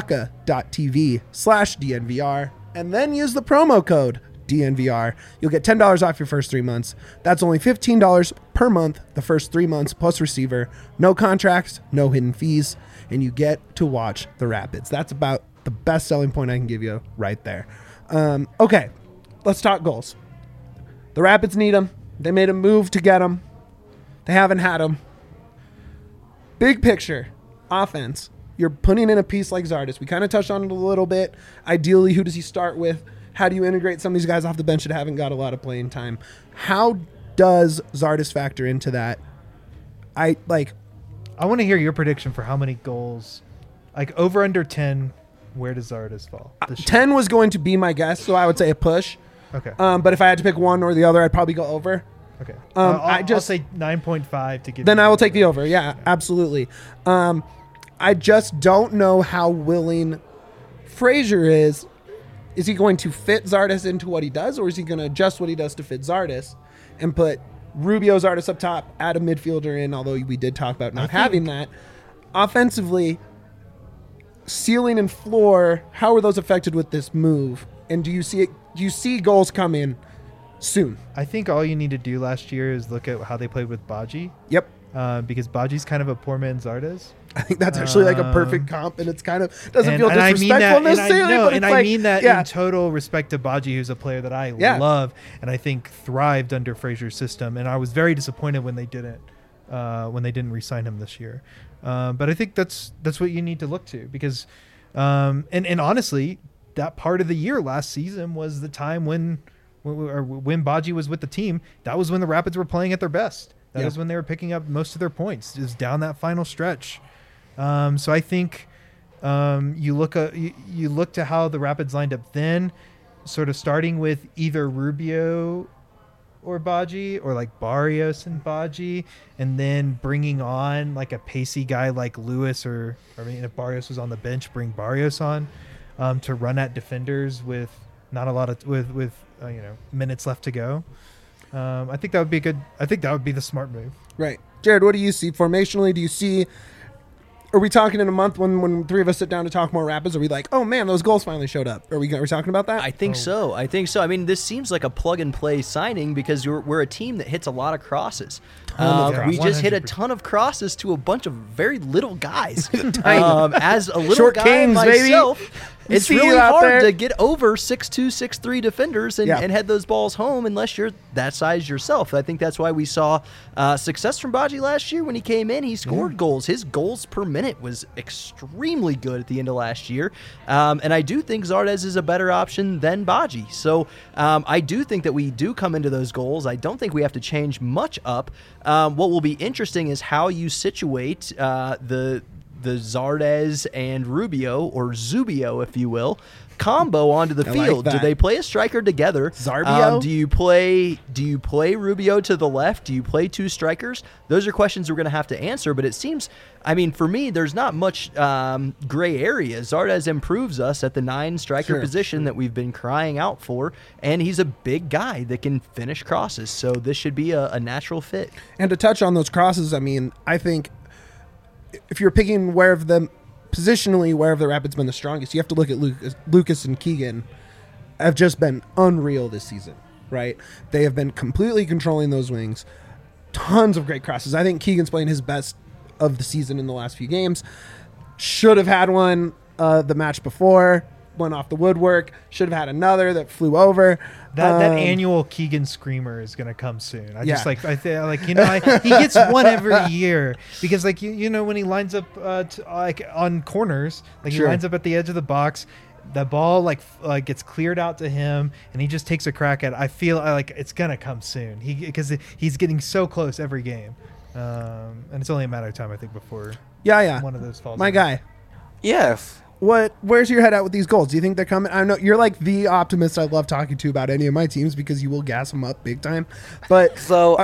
Speaker 1: evoca.tv/DNVR and then use the promo code DNVR. You'll get $10 off your first 3 months. That's only $15 per month the first 3 months plus receiver. No contracts, no hidden fees, and you get to watch the Rapids. That's about the best selling point I can give you right there. Okay, let's talk goals. The Rapids need them. They made a move to get them. They haven't had them. Big picture, offense. You're putting in a piece like Zardes. We kind of touched on it a little bit. Ideally, who does he start with? How do you integrate some of these guys off the bench that haven't got a lot of playing time? How does Zardes factor into that? I
Speaker 3: want to hear your prediction for how many goals, like over under 10. Where does Zardes fall? this year?
Speaker 1: 10 was going to be my guess, so I would say a push.
Speaker 3: Okay.
Speaker 1: But if I had to pick one or the other, I'd probably go over.
Speaker 3: Okay.
Speaker 1: I'll
Speaker 3: say 9.5 to give.
Speaker 1: Then
Speaker 3: you
Speaker 1: I will
Speaker 3: the
Speaker 1: take the over. Yeah, absolutely. I just don't know how willing Frazier is. Is he going to fit Zardes into what he does, or is he going to adjust what he does to fit Zardes and put Rubio, Zardes up top, add a midfielder in, although we did talk about not having that. Offensively, ceiling and floor, how are those affected with this move? And do you see goals come in soon?
Speaker 3: I think all you need to do last year is look at how they played with Baji.
Speaker 1: Yep.
Speaker 3: Because Baji's kind of a poor man's Zardes.
Speaker 1: I think that's actually like a perfect comp, and it's kind of doesn't feel
Speaker 3: and I mean that,
Speaker 1: disrespectful necessarily. But it's
Speaker 3: I
Speaker 1: like,
Speaker 3: mean that
Speaker 1: yeah.
Speaker 3: in total respect to Baji, who's a player that I
Speaker 1: Yeah.
Speaker 3: love and I think thrived under Frazier's system. And I was very disappointed when they didn't re-sign him this year. But I think that's what you need to look to, because and honestly, that part of the year last season was the time when Baji was with the team. That was when the Rapids were playing at their best. That was when they were picking up most of their points, just down that final stretch. So I think you look to how the Rapids lined up then, sort of starting with either Rubio or Baji, or like Barrios and Baji, and then bringing on like a pacey guy like Lewis, if Barrios was on the bench, bring Barrios on to run at defenders with not a lot of with minutes left to go. I think that would be good. I think that would be the smart move.
Speaker 1: Right. Jared, what do you see formationally? Do you see, are we talking in a month when three of us sit down to talk more Rapids? Are we like, oh man, those goals finally showed up? Are we talking about that?
Speaker 4: I think so. I mean, this seems like a plug and play signing because we're a team that hits a lot of crosses. We just hit a ton of crosses to a bunch of very little guys. As a little
Speaker 1: Short
Speaker 4: guy
Speaker 1: kings,
Speaker 4: myself,
Speaker 1: baby.
Speaker 4: it's
Speaker 1: See
Speaker 4: really
Speaker 1: you out
Speaker 4: hard
Speaker 1: there.
Speaker 4: to get over 6'2", 6'3" defenders and head those balls home unless you're that size yourself. I think that's why we saw success from Baji last year when he came in. He scored goals. His goals per minute was extremely good at the end of last year. And I do think Zardes is a better option than Baji. So I do think that we do come into those goals. I don't think we have to change much up. What will be interesting is how you situate the Zardes and Rubio, or Zubio, if you will, combo onto the field.
Speaker 1: that.
Speaker 4: Do they play a striker together?
Speaker 1: Zarbio?
Speaker 4: Do you play Rubio to the left? Do you play two strikers? Those are questions we're going to have to answer. But it seems, I mean, for me, there's not much gray area. Zardes improves us at the 9 striker position that we've been crying out for, and he's a big guy that can finish crosses. So this should be a natural fit.
Speaker 1: And to touch on those crosses, I mean, I think if you're picking positionally where the Rapids been the strongest, you have to look at Lucas and Keegan have just been unreal this season, right? They have been completely controlling those wings. Tons of great crosses. I think Keegan's playing his best of the season in the last few games. Should have had one the match before, went off the woodwork. Should have had another that flew over.
Speaker 3: That annual Keegan Screamer is going to come soon. He gets one every year because when he lines up on corners, he lines up at the edge of the box, the ball gets cleared out to him and he just takes a crack at it. I feel like it's going to come soon because he's getting so close every game. And it's only a matter of time, I think, before one of those falls.
Speaker 1: My guy.
Speaker 2: Yes.
Speaker 1: Where's your head at with these goals? Do you think they're coming? I know you're like the optimist I love talking to about any of my teams because you will gas them up big time. But
Speaker 2: So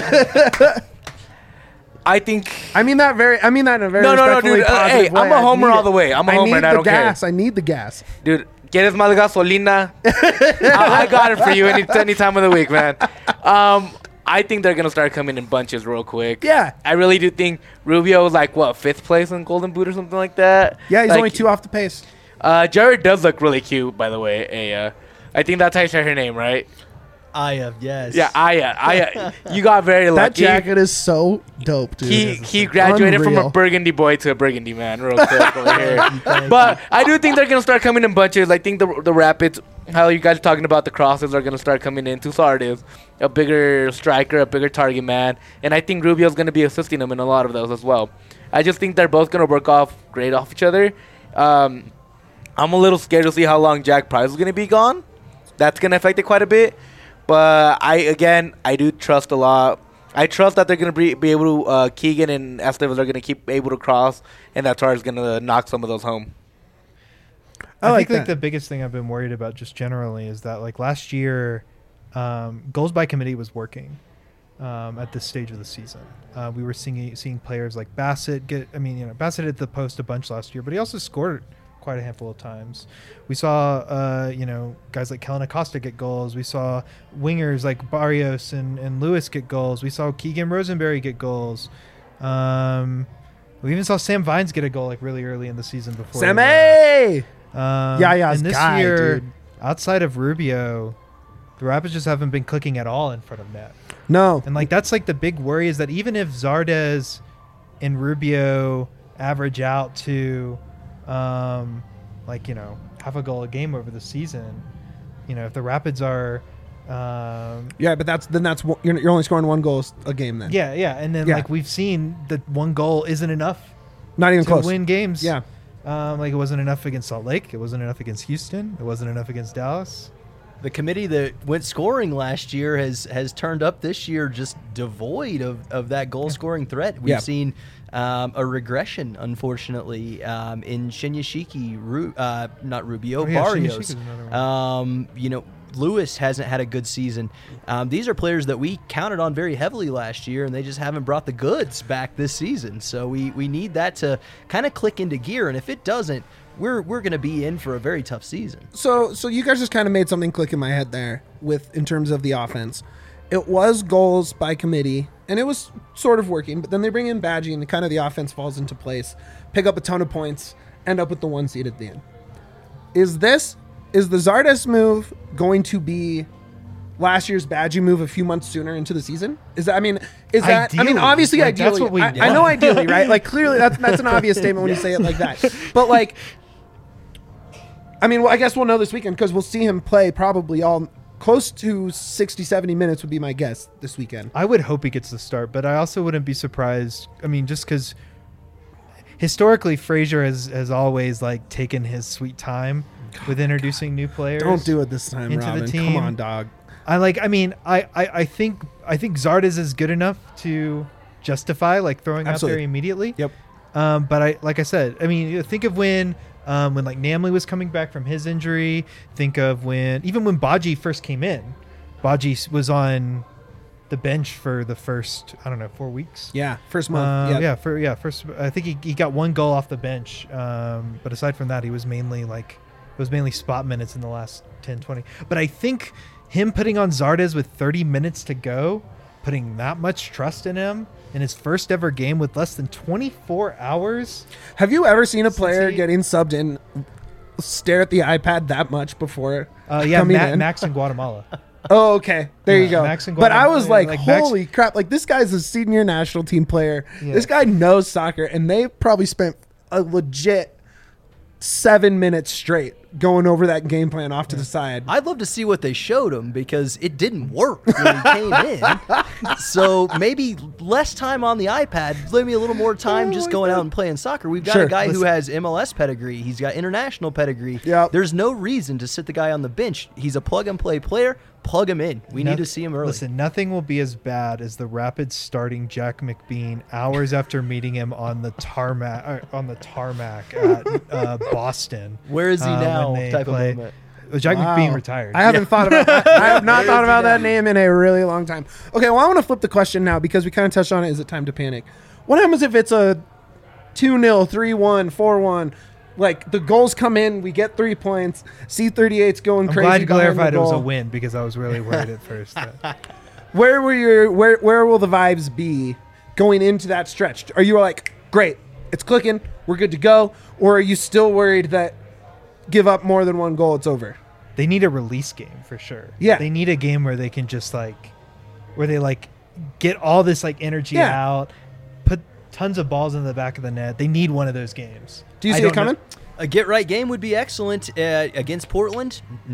Speaker 2: I think
Speaker 1: I mean that in a very
Speaker 2: No,
Speaker 1: respectfully
Speaker 2: dude.
Speaker 1: positive
Speaker 2: Hey,
Speaker 1: way.
Speaker 2: I'm a
Speaker 1: I
Speaker 2: homer
Speaker 1: need
Speaker 2: all
Speaker 1: it.
Speaker 2: the way. I'm a homer, and I don't care.
Speaker 1: I need the gas.
Speaker 2: Dude, ¿quieres más gasolina? I got it for you any time of the week, man. I think they're going to start coming in bunches real quick.
Speaker 1: Yeah.
Speaker 2: I really do think Rubio is 5th place in Golden Boot or something like that.
Speaker 1: Yeah, he's only 2 off the pace.
Speaker 2: Jared does look really cute, by the way. I think that's how you say her name, right?
Speaker 4: Aya, yes.
Speaker 2: Yeah, Aya. You got very
Speaker 1: That
Speaker 2: lucky.
Speaker 1: jacket is so dope, dude.
Speaker 2: He graduated from
Speaker 1: Unreal.
Speaker 2: a burgundy boy to a burgundy man real quick over here. But I do think they're going to start coming in bunches. I think the Rapids how you guys are talking about the crosses are going to start coming into Zardes, a bigger striker, a bigger target man, and I think Rubio's going to be assisting him in a lot of those as well. I just think they're both going to work off great off each other. I'm a little scared to see how long Jack Price is going to be gone. That's going to affect it quite a bit. But I do trust a lot. I trust that they're going to be able to, Keegan and Estevez are going to keep able to cross, and that Tar is going to knock some of those home.
Speaker 3: I think
Speaker 1: that.
Speaker 3: the biggest thing I've been worried about just generally is that like last year, goals by committee was working at this stage of the season. We were seeing players like Bassett get. I mean, Bassett hit the post a bunch last year, but he also scored quite a handful of times. We saw, guys like Kellen Acosta get goals. We saw wingers like Barrios and Lewis get goals. We saw Keegan Rosenberry get goals. We even saw Sam Vines get a goal like really early in the season before.
Speaker 1: Sammy!
Speaker 3: And this
Speaker 1: guy,
Speaker 3: year,
Speaker 1: dude.
Speaker 3: outside of Rubio, the Rapids just haven't been clicking at all in front of net.
Speaker 1: No.
Speaker 3: And like that's like the big worry is that even if Zardes and Rubio average out to half a goal a game over the season, if the Rapids are
Speaker 1: but that's you're only scoring one goal a game then.
Speaker 3: and then like we've seen that one goal isn't enough
Speaker 1: Not even
Speaker 3: to
Speaker 1: close.
Speaker 3: win games.
Speaker 1: Yeah.
Speaker 3: It wasn't enough against Salt Lake. It wasn't enough against Houston. It wasn't enough against Dallas.
Speaker 4: The committee that went scoring last year has turned up this year just devoid of that goal-scoring threat. We've seen a regression, unfortunately, in Shinyashiki, not Rubio, Barrios.
Speaker 3: Shinyashiki's another one.
Speaker 4: Lewis hasn't had a good season. These are players that we counted on very heavily last year, and they just haven't brought the goods back this season. So we need that to kind of click into gear, and if it doesn't, we're going to be in for a very tough season.
Speaker 1: So you guys just kind of made something click in my head there in terms of the offense. It was goals by committee, and it was sort of working, but then they bring in Badgie, and kind of the offense falls into place, pick up a ton of points, end up with the 1 seed at the end. Is the Zardes move going to be last year's Badgie move a few months sooner into the season?
Speaker 3: Ideally.
Speaker 1: Obviously,
Speaker 3: Like,
Speaker 1: ideally.
Speaker 3: that's what we
Speaker 1: I
Speaker 3: want.
Speaker 1: know ideally, right? Like, clearly, that's an obvious statement when you say it like that. But, like, I guess we'll know this weekend because we'll see him play probably all close to 60, 70 minutes would be my guess this weekend.
Speaker 3: I would hope he gets the start, but I also wouldn't be surprised. I mean, just because historically Frazier has always like taken his sweet time with introducing new players.
Speaker 1: Don't do it this time,
Speaker 3: into
Speaker 1: Robin.
Speaker 3: the team.
Speaker 1: Come on, dog.
Speaker 3: I think Zardes is good enough to justify like throwing out there immediately.
Speaker 1: Yep.
Speaker 3: But like I said, think of when like Namley was coming back from his injury. Think of when Badji first came in. Badji was on the bench for the first 4 weeks.
Speaker 1: Yeah, first month.
Speaker 3: First. I think he got one goal off the bench. But aside from that, it was mainly spot minutes in the last 10, 20. But I think him putting on Zardes with 30 minutes to go, putting that much trust in him in his first ever game with less than 24 hours.
Speaker 1: Have you ever seen a player getting subbed in stare at the iPad that much before coming in?
Speaker 3: Max in Guatemala.
Speaker 1: Oh, okay. There you go.
Speaker 3: Max in
Speaker 1: But I was
Speaker 3: Guatemala,
Speaker 1: like,
Speaker 3: Max-
Speaker 1: holy crap. Like, this guy's a senior national team player.
Speaker 3: Yeah.
Speaker 1: This guy knows soccer, and they probably spent a legit 7 minutes straight going over that game plan off to the side.
Speaker 4: I'd love to see what they showed him because it didn't work when he came in. So maybe less time on the iPad, maybe a little more time just going out and playing soccer. We've got a guy who has MLS pedigree. He's got international pedigree.
Speaker 1: Yep.
Speaker 4: There's no reason to sit the guy on the bench. He's a plug-and-play player. Plug him in. We need to see him early.
Speaker 3: Listen, nothing will be as bad as the Rapids starting Jack McBean hours after meeting him on the tarmac at Boston.
Speaker 4: Where is he now?
Speaker 3: when they
Speaker 4: Type
Speaker 3: play.
Speaker 4: of moment.
Speaker 3: Jack
Speaker 1: Wow.
Speaker 3: McBean retired.
Speaker 1: I haven't thought about that. I have not thought about
Speaker 4: Where is
Speaker 1: that
Speaker 4: he
Speaker 1: name in a really long time. Okay, well, I want to flip the question now because we kind of touched on it. Is it time to panic? What happens if it's a 2-0, 3-1, 4-1? Like, the goals come in, we get 3 points. C38's going
Speaker 3: I'm
Speaker 1: crazy.
Speaker 3: glad you
Speaker 1: behind the
Speaker 3: clarified it was a
Speaker 1: goal.
Speaker 3: win because I was really worried at first.
Speaker 1: Where will the vibes be going into that stretch? Are you like, great, it's clicking, we're good to go? Or are you still worried that give up more than one goal, it's over?
Speaker 3: They need a release game for sure.
Speaker 1: Yeah.
Speaker 3: They need a game where they can just where they get all this energy out, put tons of balls in the back of the net. They need one of those games.
Speaker 1: Do you
Speaker 3: I
Speaker 1: see
Speaker 3: don't
Speaker 1: it coming?
Speaker 3: know-
Speaker 4: A get-right game would be excellent. Against Portland, no.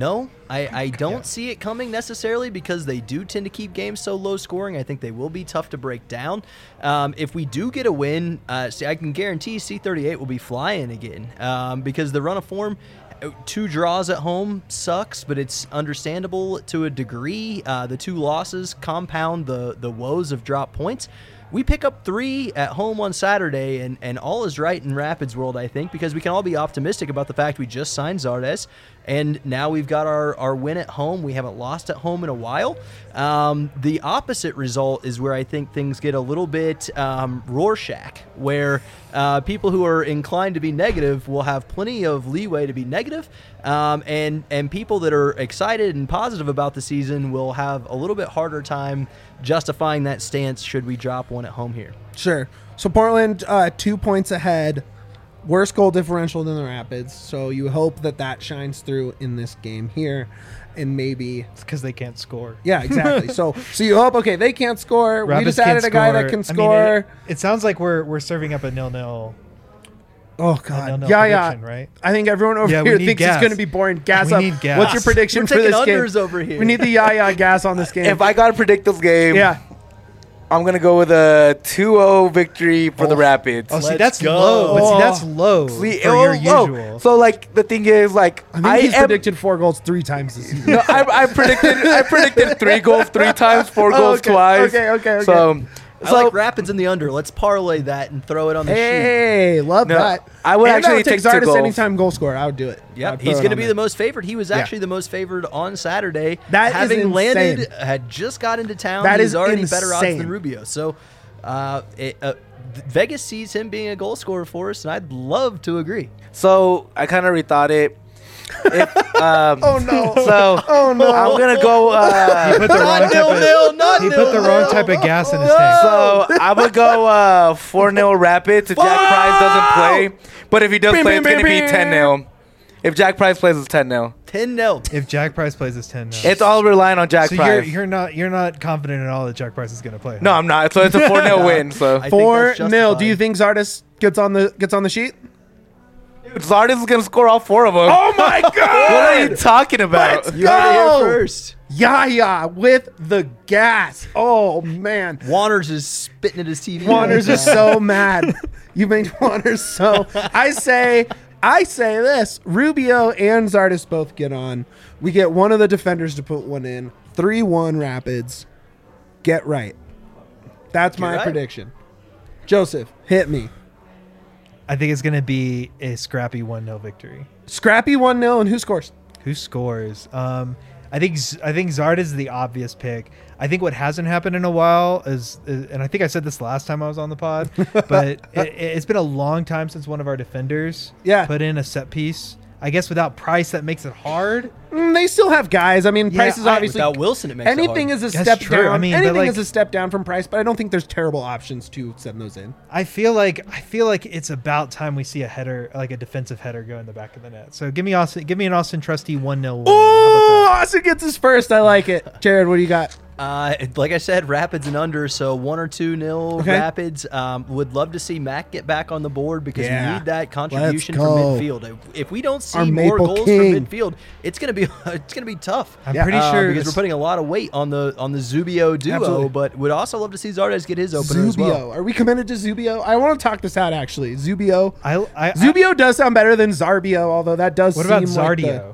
Speaker 4: I don't see it coming necessarily because they do tend to keep games so low scoring. I think they will be tough to break down. If we do get a win, I can guarantee C38 will be flying again because the run of form, 2 draws at home sucks, but it's understandable to a degree. The 2 losses compound the woes of drop points. We pick up 3 at home on Saturday, and all is right in Rapids world, I think, because we can all be optimistic about the fact we just signed Zardes, and now we've got our win at home. We haven't lost at home in a while. The opposite result is where I think things get a little bit Rorschach, where people who are inclined to be negative will have plenty of leeway to be negative, and people that are excited and positive about the season will have a little bit harder time justifying that stance should we drop one at home here.
Speaker 1: Sure. So Portland 2 points ahead, worse goal differential than the Rapids. So you hope that shines through in this game here, and maybe
Speaker 3: It's because they can't score.
Speaker 1: yeah, exactly. so you hope they can't score.
Speaker 3: Rapids
Speaker 1: we just added
Speaker 3: can't
Speaker 1: a guy that
Speaker 3: score.
Speaker 1: can
Speaker 3: I mean,
Speaker 1: score.
Speaker 3: it sounds like we're serving up a 0-0.
Speaker 1: Oh
Speaker 3: A
Speaker 1: god,
Speaker 3: 0-0
Speaker 1: yeah.
Speaker 3: prediction, right?
Speaker 1: I think everyone over
Speaker 3: Yeah, we
Speaker 1: here
Speaker 3: need
Speaker 1: thinks
Speaker 3: gas.
Speaker 1: it's going to be boring. Gas
Speaker 3: We
Speaker 1: up.
Speaker 3: need gas.
Speaker 1: What's your prediction
Speaker 4: We're
Speaker 1: for
Speaker 4: taking
Speaker 1: this game?
Speaker 4: unders over here.
Speaker 1: We need the gas on this game.
Speaker 2: If I gotta predict this game,
Speaker 1: yeah,
Speaker 2: I'm gonna go with a 2-0 victory for the Rapids.
Speaker 3: Oh, see,
Speaker 4: Let's
Speaker 3: that's
Speaker 4: go.
Speaker 3: low. But see, that's
Speaker 1: Oh.
Speaker 3: low
Speaker 2: See,
Speaker 3: for your usual.
Speaker 2: So like the thing is, like
Speaker 1: I think he's
Speaker 2: am-
Speaker 1: predicted 4 goals 3 times this season.
Speaker 2: No, I predicted 3 goals 3 times, 4 goals
Speaker 1: okay,
Speaker 2: twice.
Speaker 1: okay.
Speaker 2: So
Speaker 4: I like Rapids in the under. Let's parlay that and throw it on the sheet.
Speaker 1: Hey, love
Speaker 2: No,
Speaker 1: that.
Speaker 2: I would
Speaker 1: And
Speaker 2: actually take 2
Speaker 1: Zardes
Speaker 2: goals.
Speaker 1: anytime goal scorer. I would do it.
Speaker 4: Yep, he's going to be the most favored. He was actually the most favored on Saturday.
Speaker 1: That is
Speaker 4: having landed,
Speaker 1: insane.
Speaker 4: had just got into town.
Speaker 1: That
Speaker 4: he's
Speaker 1: is
Speaker 4: already better odds
Speaker 1: insane.
Speaker 4: than Rubio. So Vegas sees him being a goal scorer for us, and I'd love to agree.
Speaker 2: So I kind of rethought it.
Speaker 1: Oh no.
Speaker 2: So
Speaker 1: Oh no.
Speaker 2: I'm gonna go.
Speaker 3: He put the wrong type of, he put the wrong type of gas in his tank.
Speaker 2: So I'm gonna go 4-0 Rapids if Jack Price doesn't play. But if he does play, it's gonna be 10-0. If Jack Price plays, it's 10-0.
Speaker 4: 10-0.
Speaker 3: If Jack Price plays, it's 10-0.
Speaker 2: It's all relying on Jack
Speaker 3: So
Speaker 2: Price.
Speaker 3: you're not confident at all that Jack Price is going to play.
Speaker 2: No, I'm not. So it's a 4-0 win. So
Speaker 4: I think that's
Speaker 1: 4-0. Do
Speaker 4: justified.
Speaker 1: you think Zardes gets on the sheet?
Speaker 2: Zardes is gonna score all 4 of them.
Speaker 1: Oh my god!
Speaker 2: What are you talking about?
Speaker 1: Let's
Speaker 4: You heard it
Speaker 1: go!
Speaker 4: here first.
Speaker 1: Yaya with the gas. Oh man.
Speaker 4: Wanners is spitting at his TV.
Speaker 1: Wanners
Speaker 4: right
Speaker 1: is
Speaker 4: now.
Speaker 1: so mad. You made Wanners so. I say this. Rubio and Zardes both get on. We get one of the defenders to put one in. 3-1 Rapids. Get right. That's my
Speaker 4: right.
Speaker 1: prediction. Joseph, hit me.
Speaker 3: I think it's going to be a scrappy 1-0 victory.
Speaker 1: Scrappy 1-0, and who scores?
Speaker 3: Who scores? I think Zardes is the obvious pick. I think what hasn't happened in a while is, and I think I said this last time I was on the pod, but it's been a long time since one of our defenders put in a set piece. I guess without Price, that makes it hard.
Speaker 1: They still have guys. I mean,
Speaker 3: Yeah,
Speaker 1: Price is obviously
Speaker 4: Without Wilson, it makes
Speaker 1: anything
Speaker 4: it
Speaker 1: is a
Speaker 3: That's
Speaker 1: step
Speaker 3: true.
Speaker 1: down.
Speaker 3: I mean, but
Speaker 1: anything
Speaker 3: like-
Speaker 1: is a step down from Price, but I don't think there's terrible options to send those in.
Speaker 3: I feel like it's about time we see a header, like a defensive header, go in the back of the net. So give me an Austin Trusty 1-0 win. How about
Speaker 1: Oh,
Speaker 3: that?
Speaker 1: Austin gets his first. I like it. Jared, what do you got?
Speaker 4: Like I said, Rapids and under, so 1 or 2-0
Speaker 1: Okay.
Speaker 4: Rapids. Would love to see Mac get back on the board because
Speaker 1: Yeah.
Speaker 4: we need that contribution
Speaker 1: Let's
Speaker 4: from
Speaker 1: go.
Speaker 4: midfield. If we don't
Speaker 1: Our
Speaker 4: see more
Speaker 1: Maple
Speaker 4: goals
Speaker 1: King.
Speaker 4: from midfield, it's gonna be tough.
Speaker 3: I'm pretty sure
Speaker 4: because we're putting a lot of weight on the Zubio duo,
Speaker 1: Absolutely.
Speaker 4: but would also love to see Zardes get his opener as
Speaker 1: Zubio.
Speaker 4: well.
Speaker 1: Are we committed to Zubio? I want to talk this out actually. Zubio.
Speaker 3: Zubio.
Speaker 1: Does sound better than Zarbio, although that does
Speaker 3: What
Speaker 1: seem
Speaker 3: about
Speaker 1: like
Speaker 3: Zardio?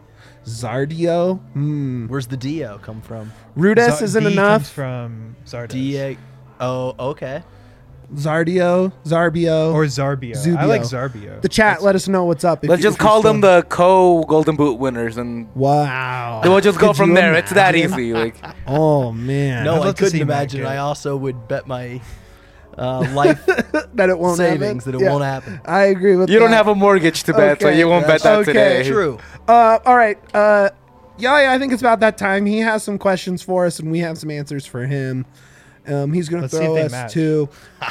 Speaker 1: Zardio?
Speaker 4: Where's the Dio come from?
Speaker 1: Rudes isn't
Speaker 3: D
Speaker 1: enough.
Speaker 3: comes from Zardes.
Speaker 4: Da. Oh, okay.
Speaker 1: Zarbio.
Speaker 3: Or Zarbio.
Speaker 1: Zubio.
Speaker 3: I like Zarbio.
Speaker 1: The chat, let us know what's up.
Speaker 2: Let's just call them the co-Golden Boot winners, and
Speaker 1: Wow.
Speaker 2: then we'll just go
Speaker 1: Could
Speaker 2: from
Speaker 1: you
Speaker 2: there. It's that
Speaker 1: imagine?
Speaker 2: easy. Like
Speaker 1: Oh man.
Speaker 4: No,
Speaker 3: I'd
Speaker 4: I
Speaker 3: love to
Speaker 4: couldn't
Speaker 3: see Mac
Speaker 4: imagine.
Speaker 3: get it.
Speaker 4: I also would bet my life
Speaker 1: that it won't
Speaker 4: savings
Speaker 1: happen.
Speaker 4: that it won't happen.
Speaker 1: I agree with
Speaker 2: you
Speaker 1: that.
Speaker 2: don't have a mortgage to bet, so
Speaker 1: Okay,
Speaker 2: you won't bet
Speaker 1: that's
Speaker 2: that today.
Speaker 4: True.
Speaker 1: All right. Yeah, I think it's about that time. He has some questions for us, and we have some answers for him. He's going to
Speaker 3: Let's see if
Speaker 1: throw
Speaker 3: they
Speaker 1: us
Speaker 3: match.
Speaker 1: to.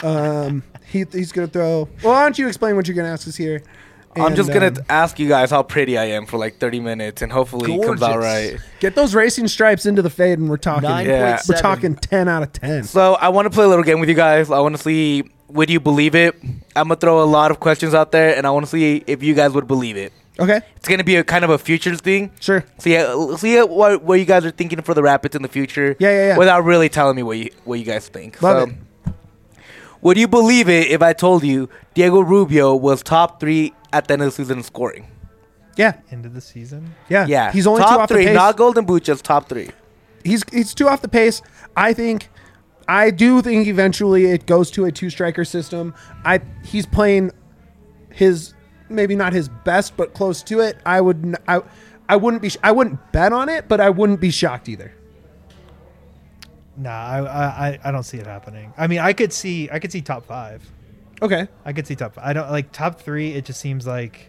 Speaker 1: He's going to throw. Well, why don't you explain what you're going to ask us here?
Speaker 2: I'm just
Speaker 1: And,
Speaker 2: gonna ask you guys how pretty I am for like 30 minutes, and hopefully it comes out
Speaker 4: Gorgeous.
Speaker 2: right.
Speaker 1: get those racing stripes into the fade, and we're talking.
Speaker 4: 9.7.
Speaker 2: Yeah.
Speaker 1: We're talking 10 out of 10.
Speaker 2: So I want to play a little game with you guys. I want to see, would you believe it? I'm gonna throw a lot of questions out there, and I want to see if you guys would believe it.
Speaker 1: Okay.
Speaker 2: It's going to be a kind of a futures thing.
Speaker 1: Sure.
Speaker 2: So yeah, see what you guys are thinking for the Rapids in the future.
Speaker 1: Yeah.
Speaker 2: Without really telling me what you guys think.
Speaker 1: Love
Speaker 2: it. Would you believe it if I told you Diego Rubio was top 3 at the end of the season in scoring?
Speaker 1: Yeah.
Speaker 3: End of the season.
Speaker 1: Yeah.
Speaker 2: Yeah.
Speaker 1: He's only
Speaker 2: top
Speaker 1: 2 off
Speaker 2: 3,
Speaker 1: the pace.
Speaker 2: not Golden Boot, just top 3.
Speaker 1: He's 2 off the pace. I do think eventually it goes to a 2-striker system. He's playing maybe not his best, but close to it. I wouldn't bet on it, but I wouldn't be shocked either.
Speaker 3: Nah, I don't see it happening. I mean, I could see top 5.
Speaker 1: Okay.
Speaker 3: I could see top 5. I don't like top 3. It just seems like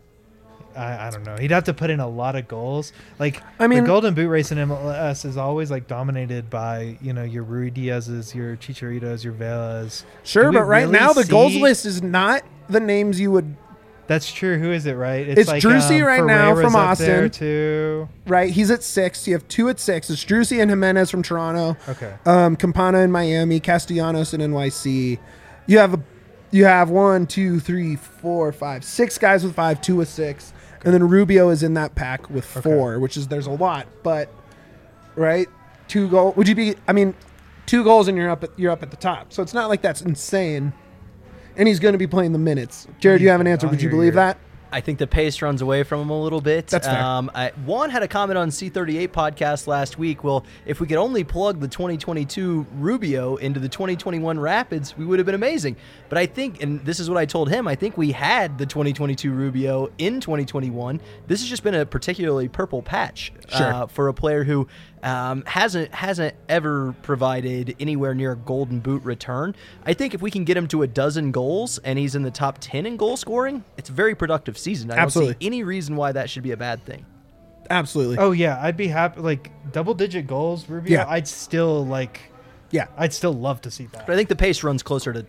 Speaker 3: I don't know. He'd have to put in a lot of goals. Like,
Speaker 1: I mean,
Speaker 3: the Golden Boot race in MLS is always like dominated by, your Rui Diaz's, your Chicharitos, your Velas.
Speaker 1: Sure, but right
Speaker 3: really
Speaker 1: now the goals
Speaker 3: see-
Speaker 1: list is not the names you would.
Speaker 3: That's true. Who is it, right?
Speaker 1: It's Drusy right now
Speaker 3: Ferreira's
Speaker 1: from
Speaker 3: up there
Speaker 1: Austin.
Speaker 3: too.
Speaker 1: Right, he's at 6. You have 2 at 6. It's Drusy and Jimenez from Toronto.
Speaker 3: Okay.
Speaker 1: Campana in Miami, Castellanos in NYC. You have 1, 2, 3, 4, 5, 6 guys with 5, 2 with 6, and then Rubio is in that pack with 4, which is there's a lot, but right, 2 goal. Would you be? I mean, 2 goals and you're up at the top. So it's not like that's insane. And he's going to be playing the minutes. Jared, you have an answer. Would you believe that?
Speaker 4: I think the pace runs away from him a little bit.
Speaker 1: That's fair.
Speaker 4: Juan had a comment on C38 podcast last week. Well, if we could only plug the 2022 Rubio into the 2021 Rapids, we would have been amazing. But I think, and this is what I told him, I think we had the 2022 Rubio in 2021. This has just been a particularly purple patch for a player who hasn't ever provided anywhere near a Golden Boot return. I think if we can get him to 12 goals and he's in the top 10 in goal scoring, it's a very productive season. I don't see any reason why that should be a bad thing.
Speaker 1: Absolutely.
Speaker 3: Oh yeah, I'd be happy. Like double-digit goals, Rubio.
Speaker 1: Yeah.
Speaker 3: I'd still love to see that.
Speaker 4: But I think the pace runs closer to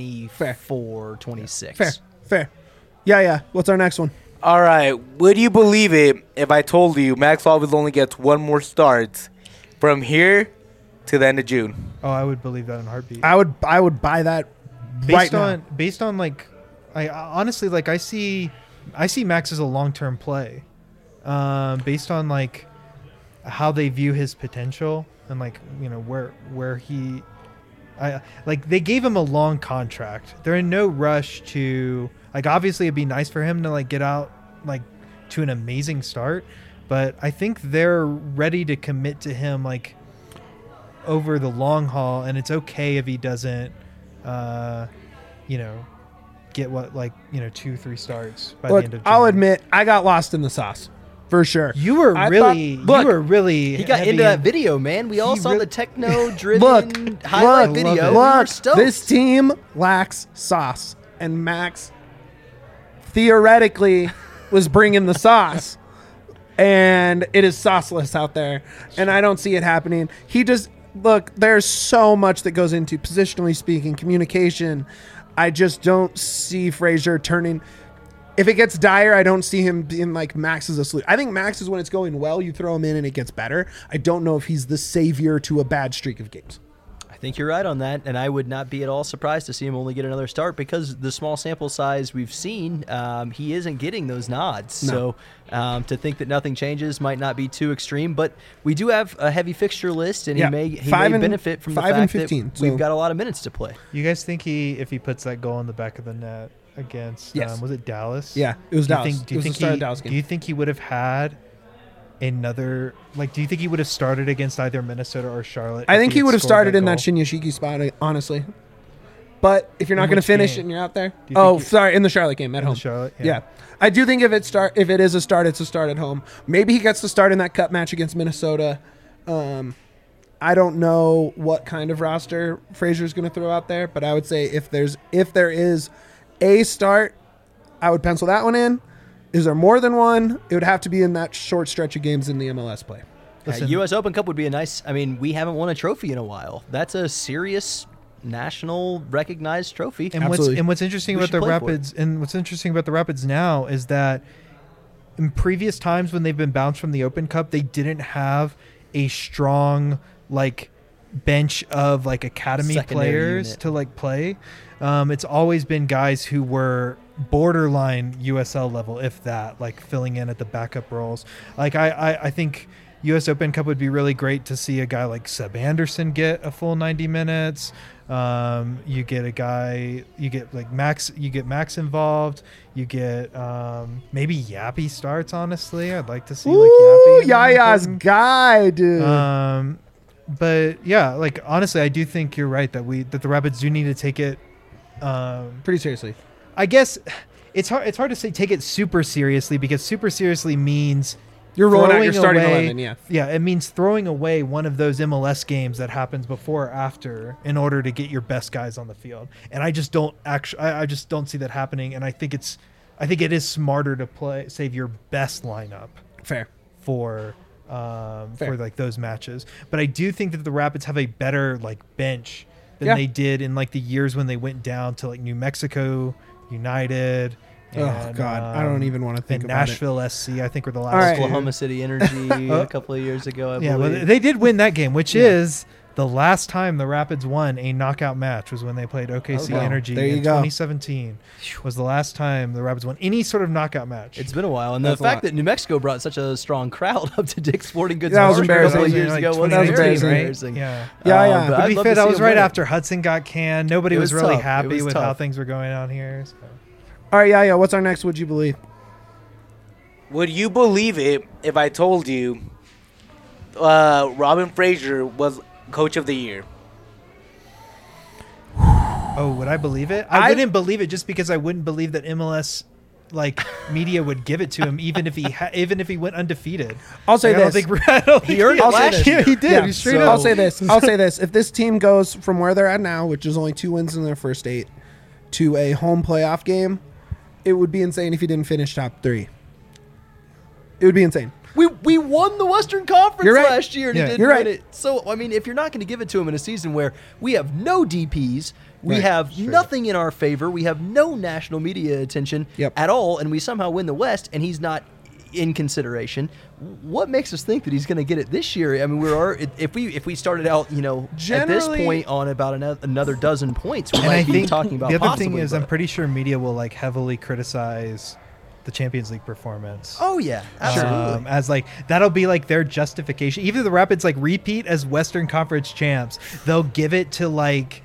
Speaker 4: 24, 26.
Speaker 1: Fair. Yeah. What's our next one?
Speaker 2: All right. Would you believe it if I told you Max Alves only gets 1 more start from here to the end of June?
Speaker 3: Oh, I would believe that in a heartbeat.
Speaker 1: I would buy that
Speaker 3: based on like, I honestly like I see Max as a long-term play, based on like how they view his potential and like where he, like they gave him a long contract. They're in no rush to. Like, obviously, it'd be nice for him to, like, get out, like, to an amazing start. But I think they're ready to commit to him, like, over the long haul. And it's okay if he doesn't, get 2-3 starts by the end of June.
Speaker 1: I'll admit, I got lost in the sauce. For sure.
Speaker 3: You were really
Speaker 4: He got into that video, man. We all saw the techno-driven highlight video. We were stoked.
Speaker 1: This team lacks sauce. And Max theoretically was bringing the sauce, and it is sauceless out there, and I don't see it happening. There's so much that goes into, positionally speaking, communication. I just don't see Frazier turning. If it gets dire, I don't see him being like Max is a solution. I think Max is when it's going well, you throw him in and it gets better. I don't know if he's the savior to a bad streak of games.
Speaker 4: I think you're right on that, and I would not be at all surprised to see him only get another start because the small sample size we've seen, he isn't getting those nods.
Speaker 1: No.
Speaker 4: So to think that nothing changes might not be too extreme, but we do have a heavy fixture list, and he may benefit from the fact
Speaker 1: 15,
Speaker 4: that we've got a lot of minutes to play.
Speaker 3: You guys think if he puts that goal in the back of the net against, was it Dallas?
Speaker 1: Yeah, it was Dallas.
Speaker 3: Do you think he would have had another, like, do you think he would have started against either Minnesota or Charlotte?
Speaker 1: I think he would have started in
Speaker 3: goal?
Speaker 1: that Shinyashiki spot, honestly. But if you're not going to finish and you're out there, in the Charlotte game at home.
Speaker 3: Charlotte,
Speaker 1: yeah. I do think if it is a start, it's a start at home. Maybe he gets to start in that cup match against Minnesota. I don't know what kind of roster Frazier's going to throw out there, but I would say if there is a start, I would pencil that one in. Is there more than one? It would have to be in that short stretch of games in the MLS play.
Speaker 4: U.S. Open Cup would be we haven't won a trophy in a while. That's a serious national recognized trophy.
Speaker 3: And what's interesting about the Rapids now is that in previous times when they've been bounced from the Open Cup, they didn't have a strong bench of academy
Speaker 4: Secondary
Speaker 3: players
Speaker 4: unit.
Speaker 3: to play. It's always been guys who were borderline USL level, if that, like filling in at the backup roles. Like I think US Open Cup would be really great to see a guy like Seb Anderson get a full 90 minutes. You get Max involved. You get maybe Yappy starts. Honestly, I'd like to see like Yappy.
Speaker 1: Yaya's guy, dude.
Speaker 3: But yeah, like honestly, I do think you're right that the Rapids do need to take it
Speaker 1: Pretty seriously.
Speaker 3: I guess it's hard to say take it super seriously, because super seriously means
Speaker 1: You're rolling out your
Speaker 3: throwing
Speaker 1: starting
Speaker 3: away-
Speaker 1: 11, yeah.
Speaker 3: Yeah, it means throwing away one of those MLS games that happens before or after in order to get your best guys on the field. And I just don't see that happening. And I think it is smarter to save your best lineup
Speaker 1: Fair.
Speaker 3: for like those matches. But I do think that the Rapids have a better like bench than they did in like the years when they went down to like New Mexico United.
Speaker 1: Oh
Speaker 3: And,
Speaker 1: God, I don't even want to think
Speaker 3: and
Speaker 1: about
Speaker 3: Nashville SC, I think, were the last.
Speaker 1: All right.
Speaker 3: two.
Speaker 4: Oklahoma City Energy a couple of years ago, I
Speaker 3: Yeah,
Speaker 4: believe.
Speaker 3: but they did win that game, which is the last time the Rapids won a knockout match was when they played OKC
Speaker 1: Oh, wow.
Speaker 3: Energy
Speaker 1: There you
Speaker 3: in
Speaker 1: go.
Speaker 3: 2017. Was the last time the Rapids won any sort of knockout match.
Speaker 4: It's been a while, and
Speaker 1: That's
Speaker 4: the
Speaker 1: a
Speaker 4: fact
Speaker 1: lot.
Speaker 4: that New Mexico brought such a strong crowd up to Dick's Sporting Goods
Speaker 1: That was
Speaker 4: Park a couple of
Speaker 1: embarrassing.
Speaker 4: years ago was
Speaker 1: That was
Speaker 4: very
Speaker 1: embarrassing.
Speaker 4: embarrassing.
Speaker 3: Yeah.
Speaker 1: Yeah, yeah.
Speaker 4: but
Speaker 3: To
Speaker 4: I'd
Speaker 3: be
Speaker 4: love
Speaker 3: fair,
Speaker 4: to
Speaker 3: that
Speaker 4: see
Speaker 3: was
Speaker 4: him
Speaker 3: right
Speaker 4: win it.
Speaker 3: after Hudson got canned. Nobody
Speaker 4: It
Speaker 3: was
Speaker 4: was
Speaker 3: really
Speaker 4: tough. It
Speaker 3: happy
Speaker 4: was
Speaker 3: with how
Speaker 4: tough.
Speaker 3: things were going on here. So.
Speaker 1: All right, yeah. What's our next? Would you believe?
Speaker 2: Would you believe it if I told you Robin Fraser was Coach of the Year?
Speaker 3: Oh, would I believe it? I wouldn't believe it just because I wouldn't believe that MLS like media would give it to him, even if he went undefeated.
Speaker 1: I'll say
Speaker 3: Like,
Speaker 1: this.
Speaker 3: I don't think
Speaker 4: He earned it
Speaker 3: I'll say
Speaker 4: last
Speaker 3: this.
Speaker 4: year.
Speaker 3: Yeah, he did.
Speaker 1: Yeah,
Speaker 3: He straight
Speaker 4: so-
Speaker 3: up.
Speaker 1: I'll say this. I'll say this. If this team goes from where they're at now, which is only 2 wins in their first 8, to a home playoff game, it would be insane if he didn't finish top 3. It would be insane.
Speaker 4: We won the Western Conference
Speaker 1: You're right.
Speaker 4: last year, and
Speaker 3: Yeah.
Speaker 4: he didn't
Speaker 1: You're
Speaker 4: win
Speaker 1: right.
Speaker 4: it. So, I mean, if you're not going to give it to him in a season where we have no DPs, we
Speaker 1: Right.
Speaker 4: have
Speaker 1: Sure.
Speaker 4: nothing in our favor, we have no national media attention
Speaker 1: Yep.
Speaker 4: at all, and we somehow win the West, and he's not in consideration, what makes us think that he's going to get it this year? I mean, if we started out, at this
Speaker 1: Generally-
Speaker 4: point on about another dozen points, we
Speaker 3: And
Speaker 4: might
Speaker 3: I
Speaker 4: be
Speaker 3: think
Speaker 4: talking about
Speaker 3: the other
Speaker 4: possibly,
Speaker 3: thing is, I'm
Speaker 4: but-
Speaker 3: pretty sure media will like heavily criticize the Champions League performance.
Speaker 4: Oh yeah, absolutely.
Speaker 3: As like that'll be like their justification. Even if the Rapids like repeat as Western Conference champs, they'll give it to like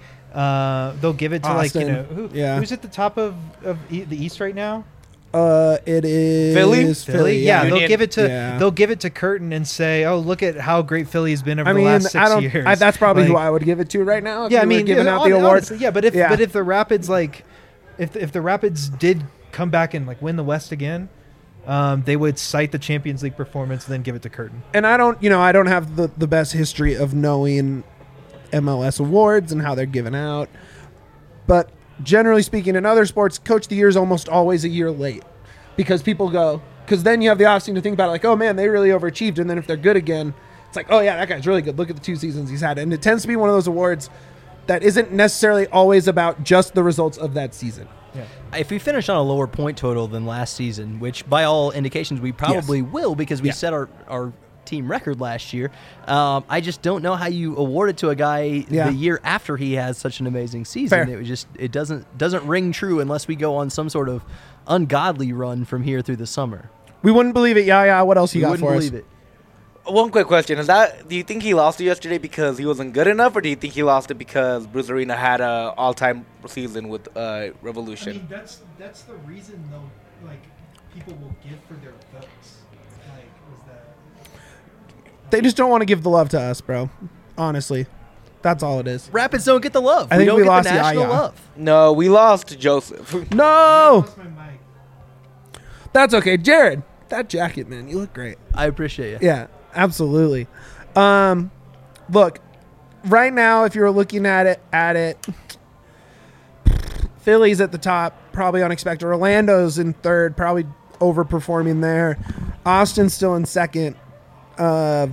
Speaker 1: Austin. Yeah.
Speaker 3: who's at the top of the East right now?
Speaker 1: It is
Speaker 2: Philly?
Speaker 1: Philly.
Speaker 3: Yeah,
Speaker 2: Union.
Speaker 3: they'll give it to
Speaker 1: Yeah.
Speaker 3: they'll give it to Curtin and say, "Oh, look at how great Philly's been over
Speaker 1: I
Speaker 3: the
Speaker 1: mean,
Speaker 3: last 6
Speaker 1: I don't.
Speaker 3: years."
Speaker 1: That's probably who
Speaker 3: Like,
Speaker 1: I would give it to right now. If
Speaker 3: Yeah, I
Speaker 1: you were
Speaker 3: mean,
Speaker 1: giving out the award.
Speaker 3: honestly, yeah, but if
Speaker 1: Yeah.
Speaker 3: the Rapids like, if the Rapids did come back and like win the West again, they would cite the Champions League performance and then give it to Curtin.
Speaker 1: And I don't have the best history of knowing MLS awards and how they're given out. But generally speaking, in other sports, Coach of the Year is almost always a year late because then you have the offseason to think about it, like, oh man, they really overachieved. And then if they're good again, it's like, oh yeah, that guy's really good. Look at the 2 seasons he's had. And it tends to be one of those awards that isn't necessarily always about just the results of that season.
Speaker 4: If we finish on a lower point total than last season, which by all indications we probably will because we
Speaker 1: Yeah.
Speaker 4: set our team record last year, I just don't know how you award it to a guy
Speaker 1: Yeah.
Speaker 4: the year after he has such an amazing season.
Speaker 1: Fair.
Speaker 4: It doesn't ring true unless we go on some sort of ungodly run from here through the summer.
Speaker 1: We wouldn't believe it. Yeah. What else you
Speaker 4: We
Speaker 1: got
Speaker 4: wouldn't
Speaker 1: for
Speaker 4: believe
Speaker 1: us?
Speaker 4: it.
Speaker 2: One quick question: do you think he lost it yesterday because he wasn't good enough, or do you think he lost it because Bruce Arena had a all-time season with Revolution?
Speaker 3: that's the reason though. Like people will give for their votes. Like is that.
Speaker 1: They just don't want to give the love to us, bro. Honestly. That's all it is.
Speaker 4: Rapids don't get the love.
Speaker 1: I
Speaker 4: we
Speaker 1: think
Speaker 4: don't
Speaker 1: we
Speaker 4: get
Speaker 1: lost
Speaker 4: the
Speaker 1: the
Speaker 4: national
Speaker 1: Yaya.
Speaker 4: love.
Speaker 2: No, we lost to Joseph.
Speaker 1: No!
Speaker 3: my mic.
Speaker 1: That's okay. Jared, that jacket, man, you look great.
Speaker 4: I appreciate you.
Speaker 1: Yeah, absolutely. Look, right now, if you're looking at it, Philly's at the top, probably unexpected. Orlando's in third, probably overperforming there. Austin's still in second. I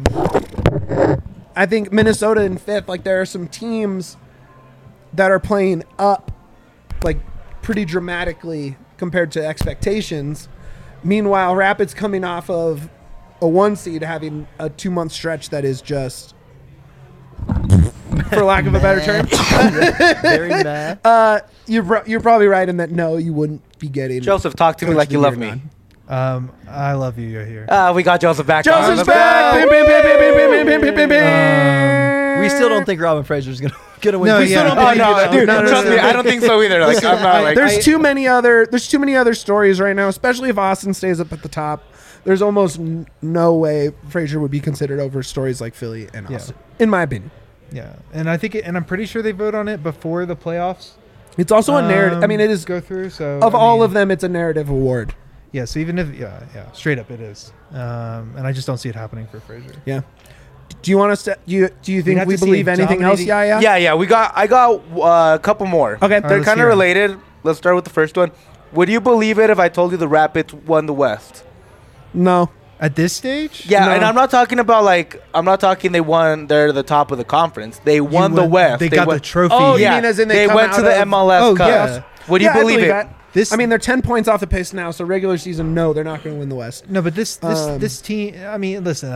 Speaker 1: think Minnesota in fifth. Like, there are some teams that are playing up, like, pretty dramatically compared to expectations. Meanwhile, Rapids coming off of a 1 seed having a 2-month stretch that is just for lack of a better term.
Speaker 4: Very mad.
Speaker 1: You're probably right in that. No, you wouldn't be getting
Speaker 2: Joseph, talk to me
Speaker 1: Coach
Speaker 2: like
Speaker 1: of
Speaker 2: you
Speaker 1: the
Speaker 2: love
Speaker 1: Year
Speaker 2: me.
Speaker 1: nod.
Speaker 3: I love you. You're here.
Speaker 2: We got Joseph back.
Speaker 1: Joseph's
Speaker 2: on.
Speaker 1: back. Bim, bim, bim, bim, bim, bim, bim, bim, bim, bim.
Speaker 4: We still don't think Robin Fraser's gonna win.
Speaker 3: No,
Speaker 4: We
Speaker 3: yeah.
Speaker 4: still don't
Speaker 2: Oh
Speaker 4: believe
Speaker 2: no,
Speaker 4: it.
Speaker 2: dude!
Speaker 3: No,
Speaker 2: trust me,
Speaker 3: no.
Speaker 2: I don't think so either. Like, I'm not like.
Speaker 1: There's too many other stories right now, especially if Austin stays up at the top. There's almost no way Frazier would be considered over stories like Philly and
Speaker 3: Yeah.
Speaker 1: Austin, in my opinion.
Speaker 3: Yeah, and I think, and I'm pretty sure they vote on it before the playoffs.
Speaker 1: It's also a narrative. I mean, it is
Speaker 3: go through. So
Speaker 1: of
Speaker 3: I
Speaker 1: all
Speaker 3: mean,
Speaker 1: of them, it's a narrative award.
Speaker 3: Yeah. So even if straight up it is. And I just don't see it happening for Frazier.
Speaker 1: Yeah. Do you want us to? Do you think
Speaker 3: have
Speaker 1: we
Speaker 3: to see
Speaker 1: believe
Speaker 3: a
Speaker 1: anything else?
Speaker 3: dominating-
Speaker 1: Yeah.
Speaker 2: Yeah. I got a couple more.
Speaker 1: Okay.
Speaker 2: They're
Speaker 3: let's
Speaker 2: kind
Speaker 3: hear
Speaker 2: of
Speaker 3: 'em.
Speaker 2: related. Let's start with the first one. Would you believe it if I told you the Rapids won the West?
Speaker 1: No.
Speaker 3: At this stage,
Speaker 2: Yeah,
Speaker 1: No.
Speaker 2: and I'm not talking about they won. They're the top of the conference. They won the
Speaker 3: won-
Speaker 2: West.
Speaker 3: they got the trophy.
Speaker 1: Oh, you
Speaker 2: yeah,
Speaker 1: mean as in
Speaker 2: they
Speaker 1: come
Speaker 2: went
Speaker 1: out
Speaker 2: to the
Speaker 1: of-
Speaker 2: MLS
Speaker 3: Oh,
Speaker 2: Cup.
Speaker 3: yeah.
Speaker 2: Would you
Speaker 1: Yeah, I
Speaker 2: believe it?
Speaker 1: that.
Speaker 3: This-
Speaker 1: I mean, they're 10 points off the pace now. So regular season, no, they're not going to win the West.
Speaker 3: No, but this
Speaker 1: Um,
Speaker 3: this team. I mean, listen.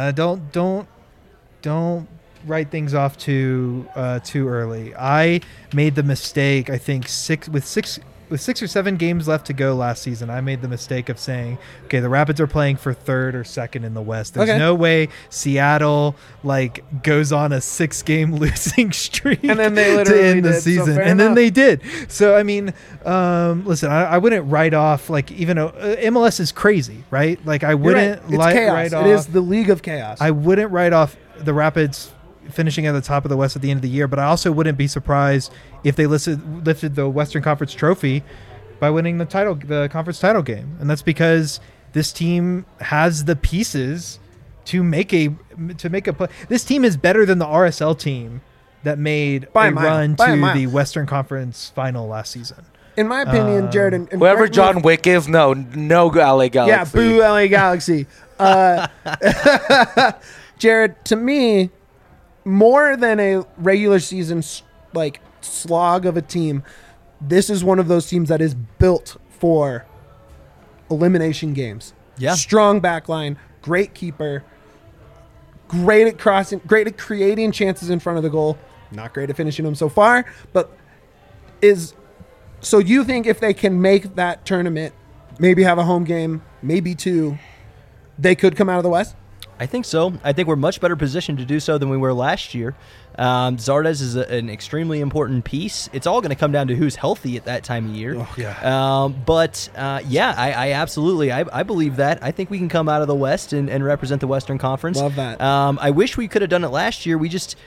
Speaker 3: Don't write things off too early. I made the mistake. I think with six or seven games left to go last season, I made the mistake of saying, okay, the Rapids are playing for third or second in the West. There's
Speaker 1: Okay.
Speaker 3: no way Seattle goes on a 6-game losing streak
Speaker 1: And then they
Speaker 3: to
Speaker 1: literally
Speaker 3: end the
Speaker 1: did, so
Speaker 3: season,
Speaker 1: fair
Speaker 3: and then
Speaker 1: enough.
Speaker 3: they did. So I mean, listen, I wouldn't write off even though MLS is crazy, right? Like I
Speaker 1: You're
Speaker 3: wouldn't
Speaker 1: right. It's chaos.
Speaker 3: write off.
Speaker 1: It is the league of chaos.
Speaker 3: I wouldn't write off the Rapids finishing at the top of the West at the end of the year, but I also wouldn't be surprised if they lifted the Western Conference trophy by winning the conference title game. And that's because this team has the pieces to make a play. This team is better than the RSL team that made
Speaker 1: By a
Speaker 3: a
Speaker 1: mile.
Speaker 3: run
Speaker 1: By a
Speaker 3: to
Speaker 1: mile.
Speaker 3: the Western Conference final last season.
Speaker 1: In my opinion, Jared, and
Speaker 2: Whoever
Speaker 1: correct me if-
Speaker 2: John Wick is, no LA Galaxy.
Speaker 1: Yeah, boo LA Galaxy. Jared, to me, more than a regular season slog of a team, this is one of those teams that is built for elimination games.
Speaker 4: Yeah.
Speaker 1: Strong backline, great keeper, great at crossing, great at creating chances in front of the goal. Not great at finishing them so far, but so you think if they can make that tournament, maybe have a home game, maybe two, they could come out of the West?
Speaker 4: I think so. I think we're much better positioned to do so than we were last year. Zardes is an extremely important piece. It's all going to come down to who's healthy at that time of year.
Speaker 1: Oh,
Speaker 4: I absolutely, I believe that. I think we can come out of the West and represent the Western Conference.
Speaker 1: Love that.
Speaker 4: I wish we could have done it last year. We just...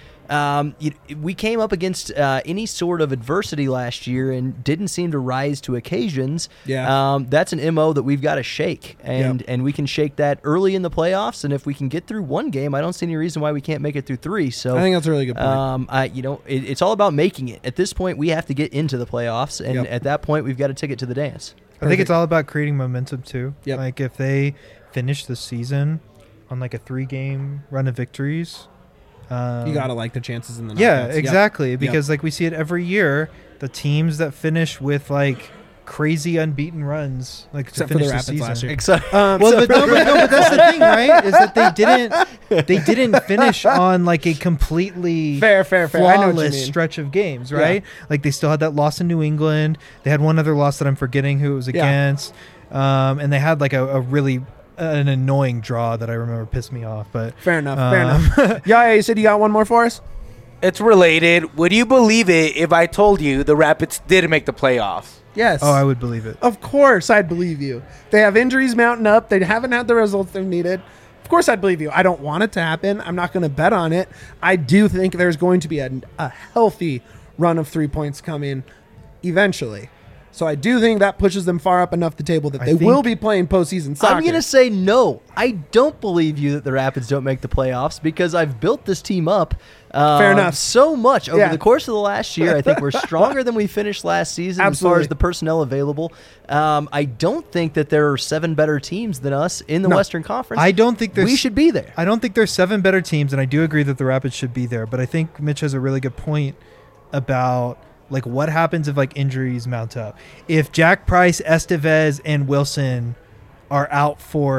Speaker 4: we came up against any sort of adversity last year and didn't seem to rise to occasions.
Speaker 1: Yeah.
Speaker 4: That's an MO that we've got to shake, and we can shake that early in the playoffs. And if we can get through one game, I don't see any reason why we can't make it through three. So
Speaker 1: I think that's a really good point.
Speaker 4: it's all about making it. At this point, we have to get into the playoffs, and
Speaker 1: Yep.
Speaker 4: at that point, we've got a ticket to the dance.
Speaker 3: I think it's all about creating momentum too.
Speaker 1: Yep.
Speaker 3: Like if they finish the season on a 3-game run of victories,
Speaker 1: You gotta like the chances in the
Speaker 3: yeah,
Speaker 1: knockouts.
Speaker 3: exactly. Because we see it every year. The teams that finish with crazy unbeaten runs,
Speaker 1: Except
Speaker 3: to
Speaker 1: for
Speaker 3: finish
Speaker 1: the
Speaker 3: the
Speaker 1: Rapids
Speaker 3: season.
Speaker 1: last year.
Speaker 4: Excited.
Speaker 3: Well, but that's the thing, right? Is that they didn't finish on a completely
Speaker 1: Fair. I know what you
Speaker 3: flawless
Speaker 1: mean.
Speaker 3: stretch of games, right? Like they still had that loss in New England. They had one other loss that I'm forgetting who it was
Speaker 1: Yeah.
Speaker 3: against, and they had a really an annoying draw that I remember pissed me off. But
Speaker 1: Fair enough. Yeah, you said you got one more for us?
Speaker 2: It's related. Would you believe it if I told you the Rapids did make the playoffs?
Speaker 1: Yes.
Speaker 3: oh, I would believe it.
Speaker 1: Of course, I'd believe you. They have injuries mounting up. They haven't had the results they've needed. Of course, I'd believe you. I don't want it to happen. I'm not going to bet on it. I do think there's going to be a healthy run of 3 points coming eventually. So I do think that pushes them far up enough the table that
Speaker 3: I
Speaker 1: they
Speaker 3: think-
Speaker 1: will be playing postseason soccer.
Speaker 4: I'm going to say no. I don't believe you that the Rapids don't make the playoffs because I've built this team up
Speaker 1: Fair enough.
Speaker 4: so much over
Speaker 1: Yeah.
Speaker 4: the course of the last year. I think we're stronger than we finished last season as far
Speaker 1: Absolutely.
Speaker 4: as the personnel available. I don't think that there are 7 better teams than us in the
Speaker 1: No.
Speaker 4: Western Conference.
Speaker 3: I don't think there's.
Speaker 4: we should be there.
Speaker 3: I don't think there's 7 better teams, and I do agree that the Rapids should be there. But I think Mitch has a really good point about what happens if injuries mount up. If Jack Price, Estevez, and Wilson are out for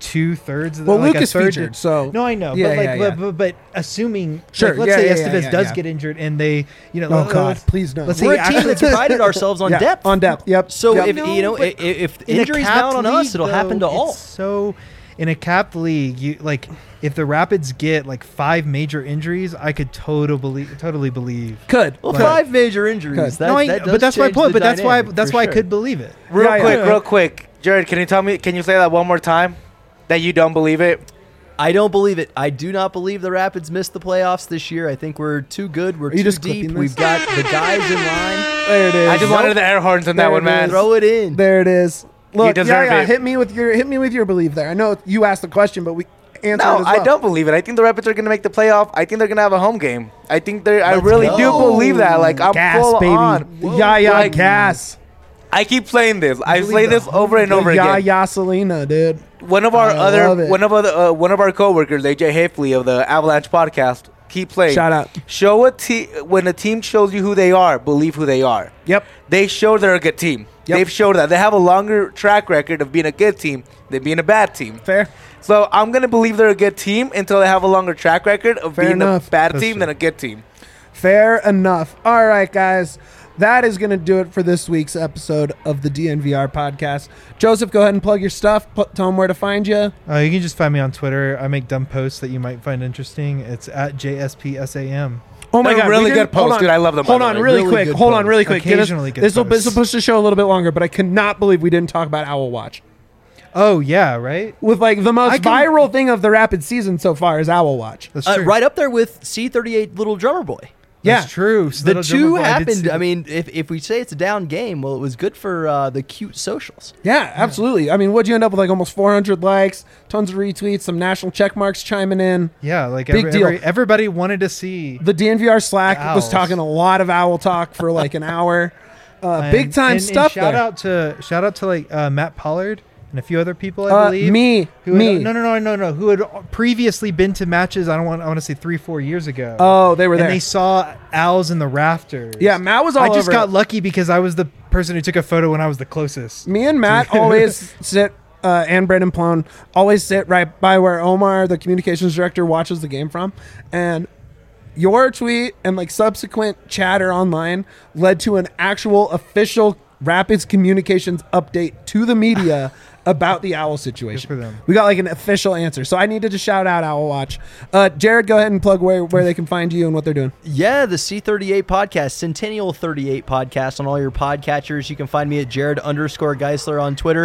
Speaker 3: 2/3 of the
Speaker 1: Well,
Speaker 3: like
Speaker 1: Lucas
Speaker 3: a third
Speaker 1: featured, so
Speaker 3: no, I know,
Speaker 1: Yeah,
Speaker 3: but like,
Speaker 1: yeah, yeah.
Speaker 3: But assuming,
Speaker 1: Sure,
Speaker 3: like, let's
Speaker 1: yeah,
Speaker 3: say
Speaker 1: yeah,
Speaker 3: Estevez
Speaker 1: yeah,
Speaker 3: does
Speaker 1: yeah.
Speaker 3: get injured, and they, you know,
Speaker 1: Oh God,
Speaker 3: let's-
Speaker 1: please no.
Speaker 3: let's say
Speaker 4: We're a team
Speaker 3: actually-
Speaker 4: that's prided ourselves on
Speaker 1: Yeah,
Speaker 4: depth.
Speaker 1: on depth. Yep.
Speaker 4: So
Speaker 1: Yep.
Speaker 4: if
Speaker 3: No,
Speaker 4: you know
Speaker 3: but
Speaker 4: if
Speaker 3: in a
Speaker 4: injuries
Speaker 3: capped
Speaker 4: mount on us,
Speaker 3: league,
Speaker 4: it'll happen to
Speaker 3: though,
Speaker 4: all.
Speaker 3: it's so in a capped league, you like if the Rapids get like 5 major injuries, I could totally believe.
Speaker 1: Could.
Speaker 4: Well,
Speaker 1: Could.
Speaker 4: 5 major injuries.
Speaker 1: Good.
Speaker 4: That,
Speaker 3: No, I-
Speaker 4: that does
Speaker 3: but that's my
Speaker 4: change
Speaker 3: point.
Speaker 4: the
Speaker 3: But that's why
Speaker 4: dynamic, for
Speaker 3: I
Speaker 4: sure.
Speaker 3: could believe it.
Speaker 2: Real quick, Jared, can you say that one more time? That you don't believe it?
Speaker 4: I don't believe it. I do not believe the Rapids missed the playoffs this year. I think we're too good. We're
Speaker 1: you
Speaker 4: too
Speaker 1: just
Speaker 4: deep.
Speaker 1: clipping
Speaker 4: We've
Speaker 1: this?
Speaker 4: got the guys in line.
Speaker 1: There it is.
Speaker 2: I just wanted the air horns on
Speaker 1: There
Speaker 2: that one,
Speaker 1: it
Speaker 2: man.
Speaker 1: is.
Speaker 4: Throw it in.
Speaker 1: There it is. Look,
Speaker 2: deserve
Speaker 1: yeah,
Speaker 2: it.
Speaker 1: hit me with your belief there. I know you asked the question, but we answered
Speaker 2: No,
Speaker 1: it as well.
Speaker 2: I don't believe it. I think the Rapids are going to make the playoff. I think they're going to have a home game. I think they're. I
Speaker 4: Let's
Speaker 2: really
Speaker 4: go.
Speaker 2: do believe that. Like I'm
Speaker 1: gas,
Speaker 2: full
Speaker 1: baby.
Speaker 2: on.
Speaker 1: Yeah,
Speaker 2: Like,
Speaker 1: gas.
Speaker 2: I keep saying this. I
Speaker 3: believe
Speaker 2: say
Speaker 3: the
Speaker 2: this over and over
Speaker 1: Yeah,
Speaker 2: again.
Speaker 1: yeah, Selena, dude.
Speaker 2: One of our
Speaker 1: I love it.
Speaker 2: one of our coworkers, AJ Hafley of the Avalanche podcast, keep saying,
Speaker 1: Shout out.
Speaker 2: Show a team when a team shows you who they are, believe who they are.
Speaker 1: Yep.
Speaker 2: They show they're a good team.
Speaker 1: Yep.
Speaker 2: They've showed that they have a longer track record of being a good team than being a bad team.
Speaker 1: Fair.
Speaker 2: So I'm gonna believe they're a good team until they have a longer track record of
Speaker 1: Fair
Speaker 2: being
Speaker 1: enough.
Speaker 2: a bad
Speaker 3: That's
Speaker 2: team
Speaker 3: true.
Speaker 2: than a good team.
Speaker 1: Fair enough. All right, guys. That is going to do it for this week's episode of the DNVR podcast. Joseph, go ahead and plug your stuff. Tell them where to find you.
Speaker 3: You can just find me on Twitter. I make dumb posts that you might find interesting. It's at JSPSAM.
Speaker 1: Oh my
Speaker 2: They're
Speaker 1: God,
Speaker 2: really
Speaker 1: we
Speaker 2: good
Speaker 1: didn't- hold
Speaker 2: posts,
Speaker 1: on.
Speaker 2: dude. I love them, by
Speaker 1: Hold
Speaker 2: the
Speaker 1: on,
Speaker 2: way.
Speaker 1: really
Speaker 4: Really
Speaker 1: quick.
Speaker 4: good
Speaker 1: Hold on,
Speaker 4: posts.
Speaker 1: really quick.
Speaker 3: Occasionally good
Speaker 1: This will
Speaker 3: posts.
Speaker 1: push the show a little bit longer, but I cannot believe we didn't talk about Owl Watch.
Speaker 3: Oh yeah, right.
Speaker 1: With like the most
Speaker 3: I can-
Speaker 1: viral thing of the Rapid season so far is Owl Watch.
Speaker 3: That's true.
Speaker 4: Right up there with C38 Little Drummer Boy.
Speaker 1: Yeah.
Speaker 3: That's true. So
Speaker 4: The
Speaker 3: Little
Speaker 4: two
Speaker 3: Drummer Boy, I did see
Speaker 4: happened. I
Speaker 3: that.
Speaker 4: mean, if we say it's a down game, well, it was good for the cute socials.
Speaker 1: Yeah, absolutely. I mean, what'd you end up with? Like almost 400 likes, tons of retweets, some national check marks chiming in.
Speaker 3: Yeah, like
Speaker 1: Big deal.
Speaker 3: everybody wanted to see.
Speaker 1: The DNVR Slack
Speaker 3: The
Speaker 1: was
Speaker 3: Owls.
Speaker 1: talking a lot of owl talk for like an hour. Big time
Speaker 3: and
Speaker 1: stuff
Speaker 3: shout
Speaker 1: there.
Speaker 3: out to like Matt Pollard and a few other people, I believe.
Speaker 1: Me.
Speaker 3: Who had, who had previously been to matches. I want to say 3-4 years ago.
Speaker 1: Oh, they were there.
Speaker 3: And they saw owls in the rafters.
Speaker 1: Yeah, Matt was all
Speaker 3: I just
Speaker 1: over
Speaker 3: got
Speaker 1: it.
Speaker 3: lucky because I was the person who took a photo when I was the closest.
Speaker 1: Me and Matt always sit, and Brendan Plone always sit right by where Omar, the communications director, watches the game from. And your tweet and like subsequent chatter online led to an actual official Rapids communications update to the media about the owl situation.
Speaker 3: Good for them.
Speaker 1: We got like an official answer. So I needed to shout out Owl Watch. Jared, go ahead and plug where they can find you and what they're doing.
Speaker 4: Yeah, the C38 podcast, Centennial 38 podcast on all your podcatchers. You can find me at Jared_Geisler on Twitter.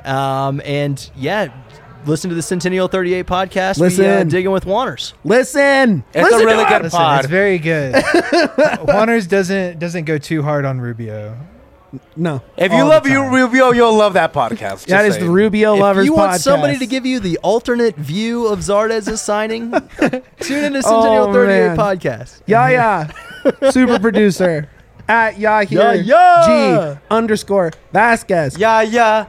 Speaker 4: And yeah, listen to the Centennial 38 podcast.
Speaker 1: Listen.
Speaker 4: We digging with Wanners.
Speaker 1: Listen.
Speaker 2: It's
Speaker 1: Listen
Speaker 2: a really
Speaker 1: to
Speaker 2: good
Speaker 1: us.
Speaker 3: Listen,
Speaker 2: pod.
Speaker 3: it's very good. Juaners doesn't go too hard on Rubio.
Speaker 1: No.
Speaker 2: If
Speaker 1: all
Speaker 2: you
Speaker 1: the
Speaker 2: love
Speaker 1: time.
Speaker 2: Rubio, you'll love that podcast.
Speaker 1: That is the Rubio Lovers
Speaker 4: If you want
Speaker 1: podcast.
Speaker 4: somebody to give you the alternate view of Zardez's signing, tune into Centennial 38
Speaker 1: man.
Speaker 4: podcast.
Speaker 1: Yaya, super producer at Yahir
Speaker 4: Yaya.
Speaker 1: G_Vasquez.
Speaker 2: Yeah.
Speaker 1: Yeah.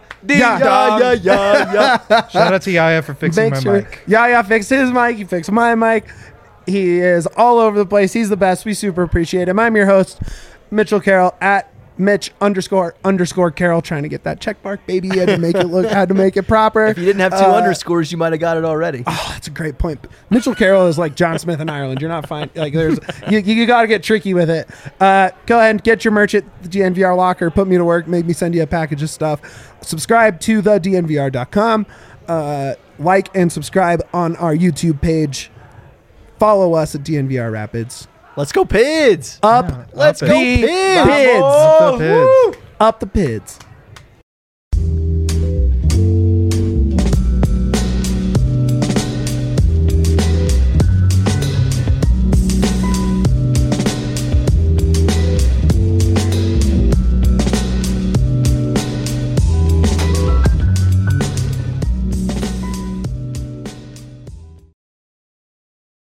Speaker 4: Yeah.
Speaker 3: Shout out to Yaya for fixing
Speaker 1: Make
Speaker 3: my
Speaker 1: sure
Speaker 3: mic.
Speaker 1: Yaya fixed his mic. He fixed my mic. He is all over the place. He's the best. We super appreciate him. I'm your host, Mitchell Carroll at Mitch__Carroll. Trying to get that check mark, baby. Had to make it proper.
Speaker 4: If you didn't have two underscores, you might have got it already.
Speaker 1: Oh, that's a great point. Mitchell Carroll is like John Smith in Ireland. You're not fine. Like there's you got to get tricky with it. Go ahead and get your merch at the DNVR locker. Put me to work. Make me send you a package of stuff. Subscribe to the DNVR.com. Like and subscribe on our YouTube page. Follow us at DNVR Rapids.
Speaker 4: Let's go, Pids.
Speaker 1: Up,
Speaker 3: Yeah,
Speaker 1: let's
Speaker 3: up
Speaker 1: go,
Speaker 3: it.
Speaker 1: Pids.
Speaker 3: Up the Pids.
Speaker 1: Up the Pids.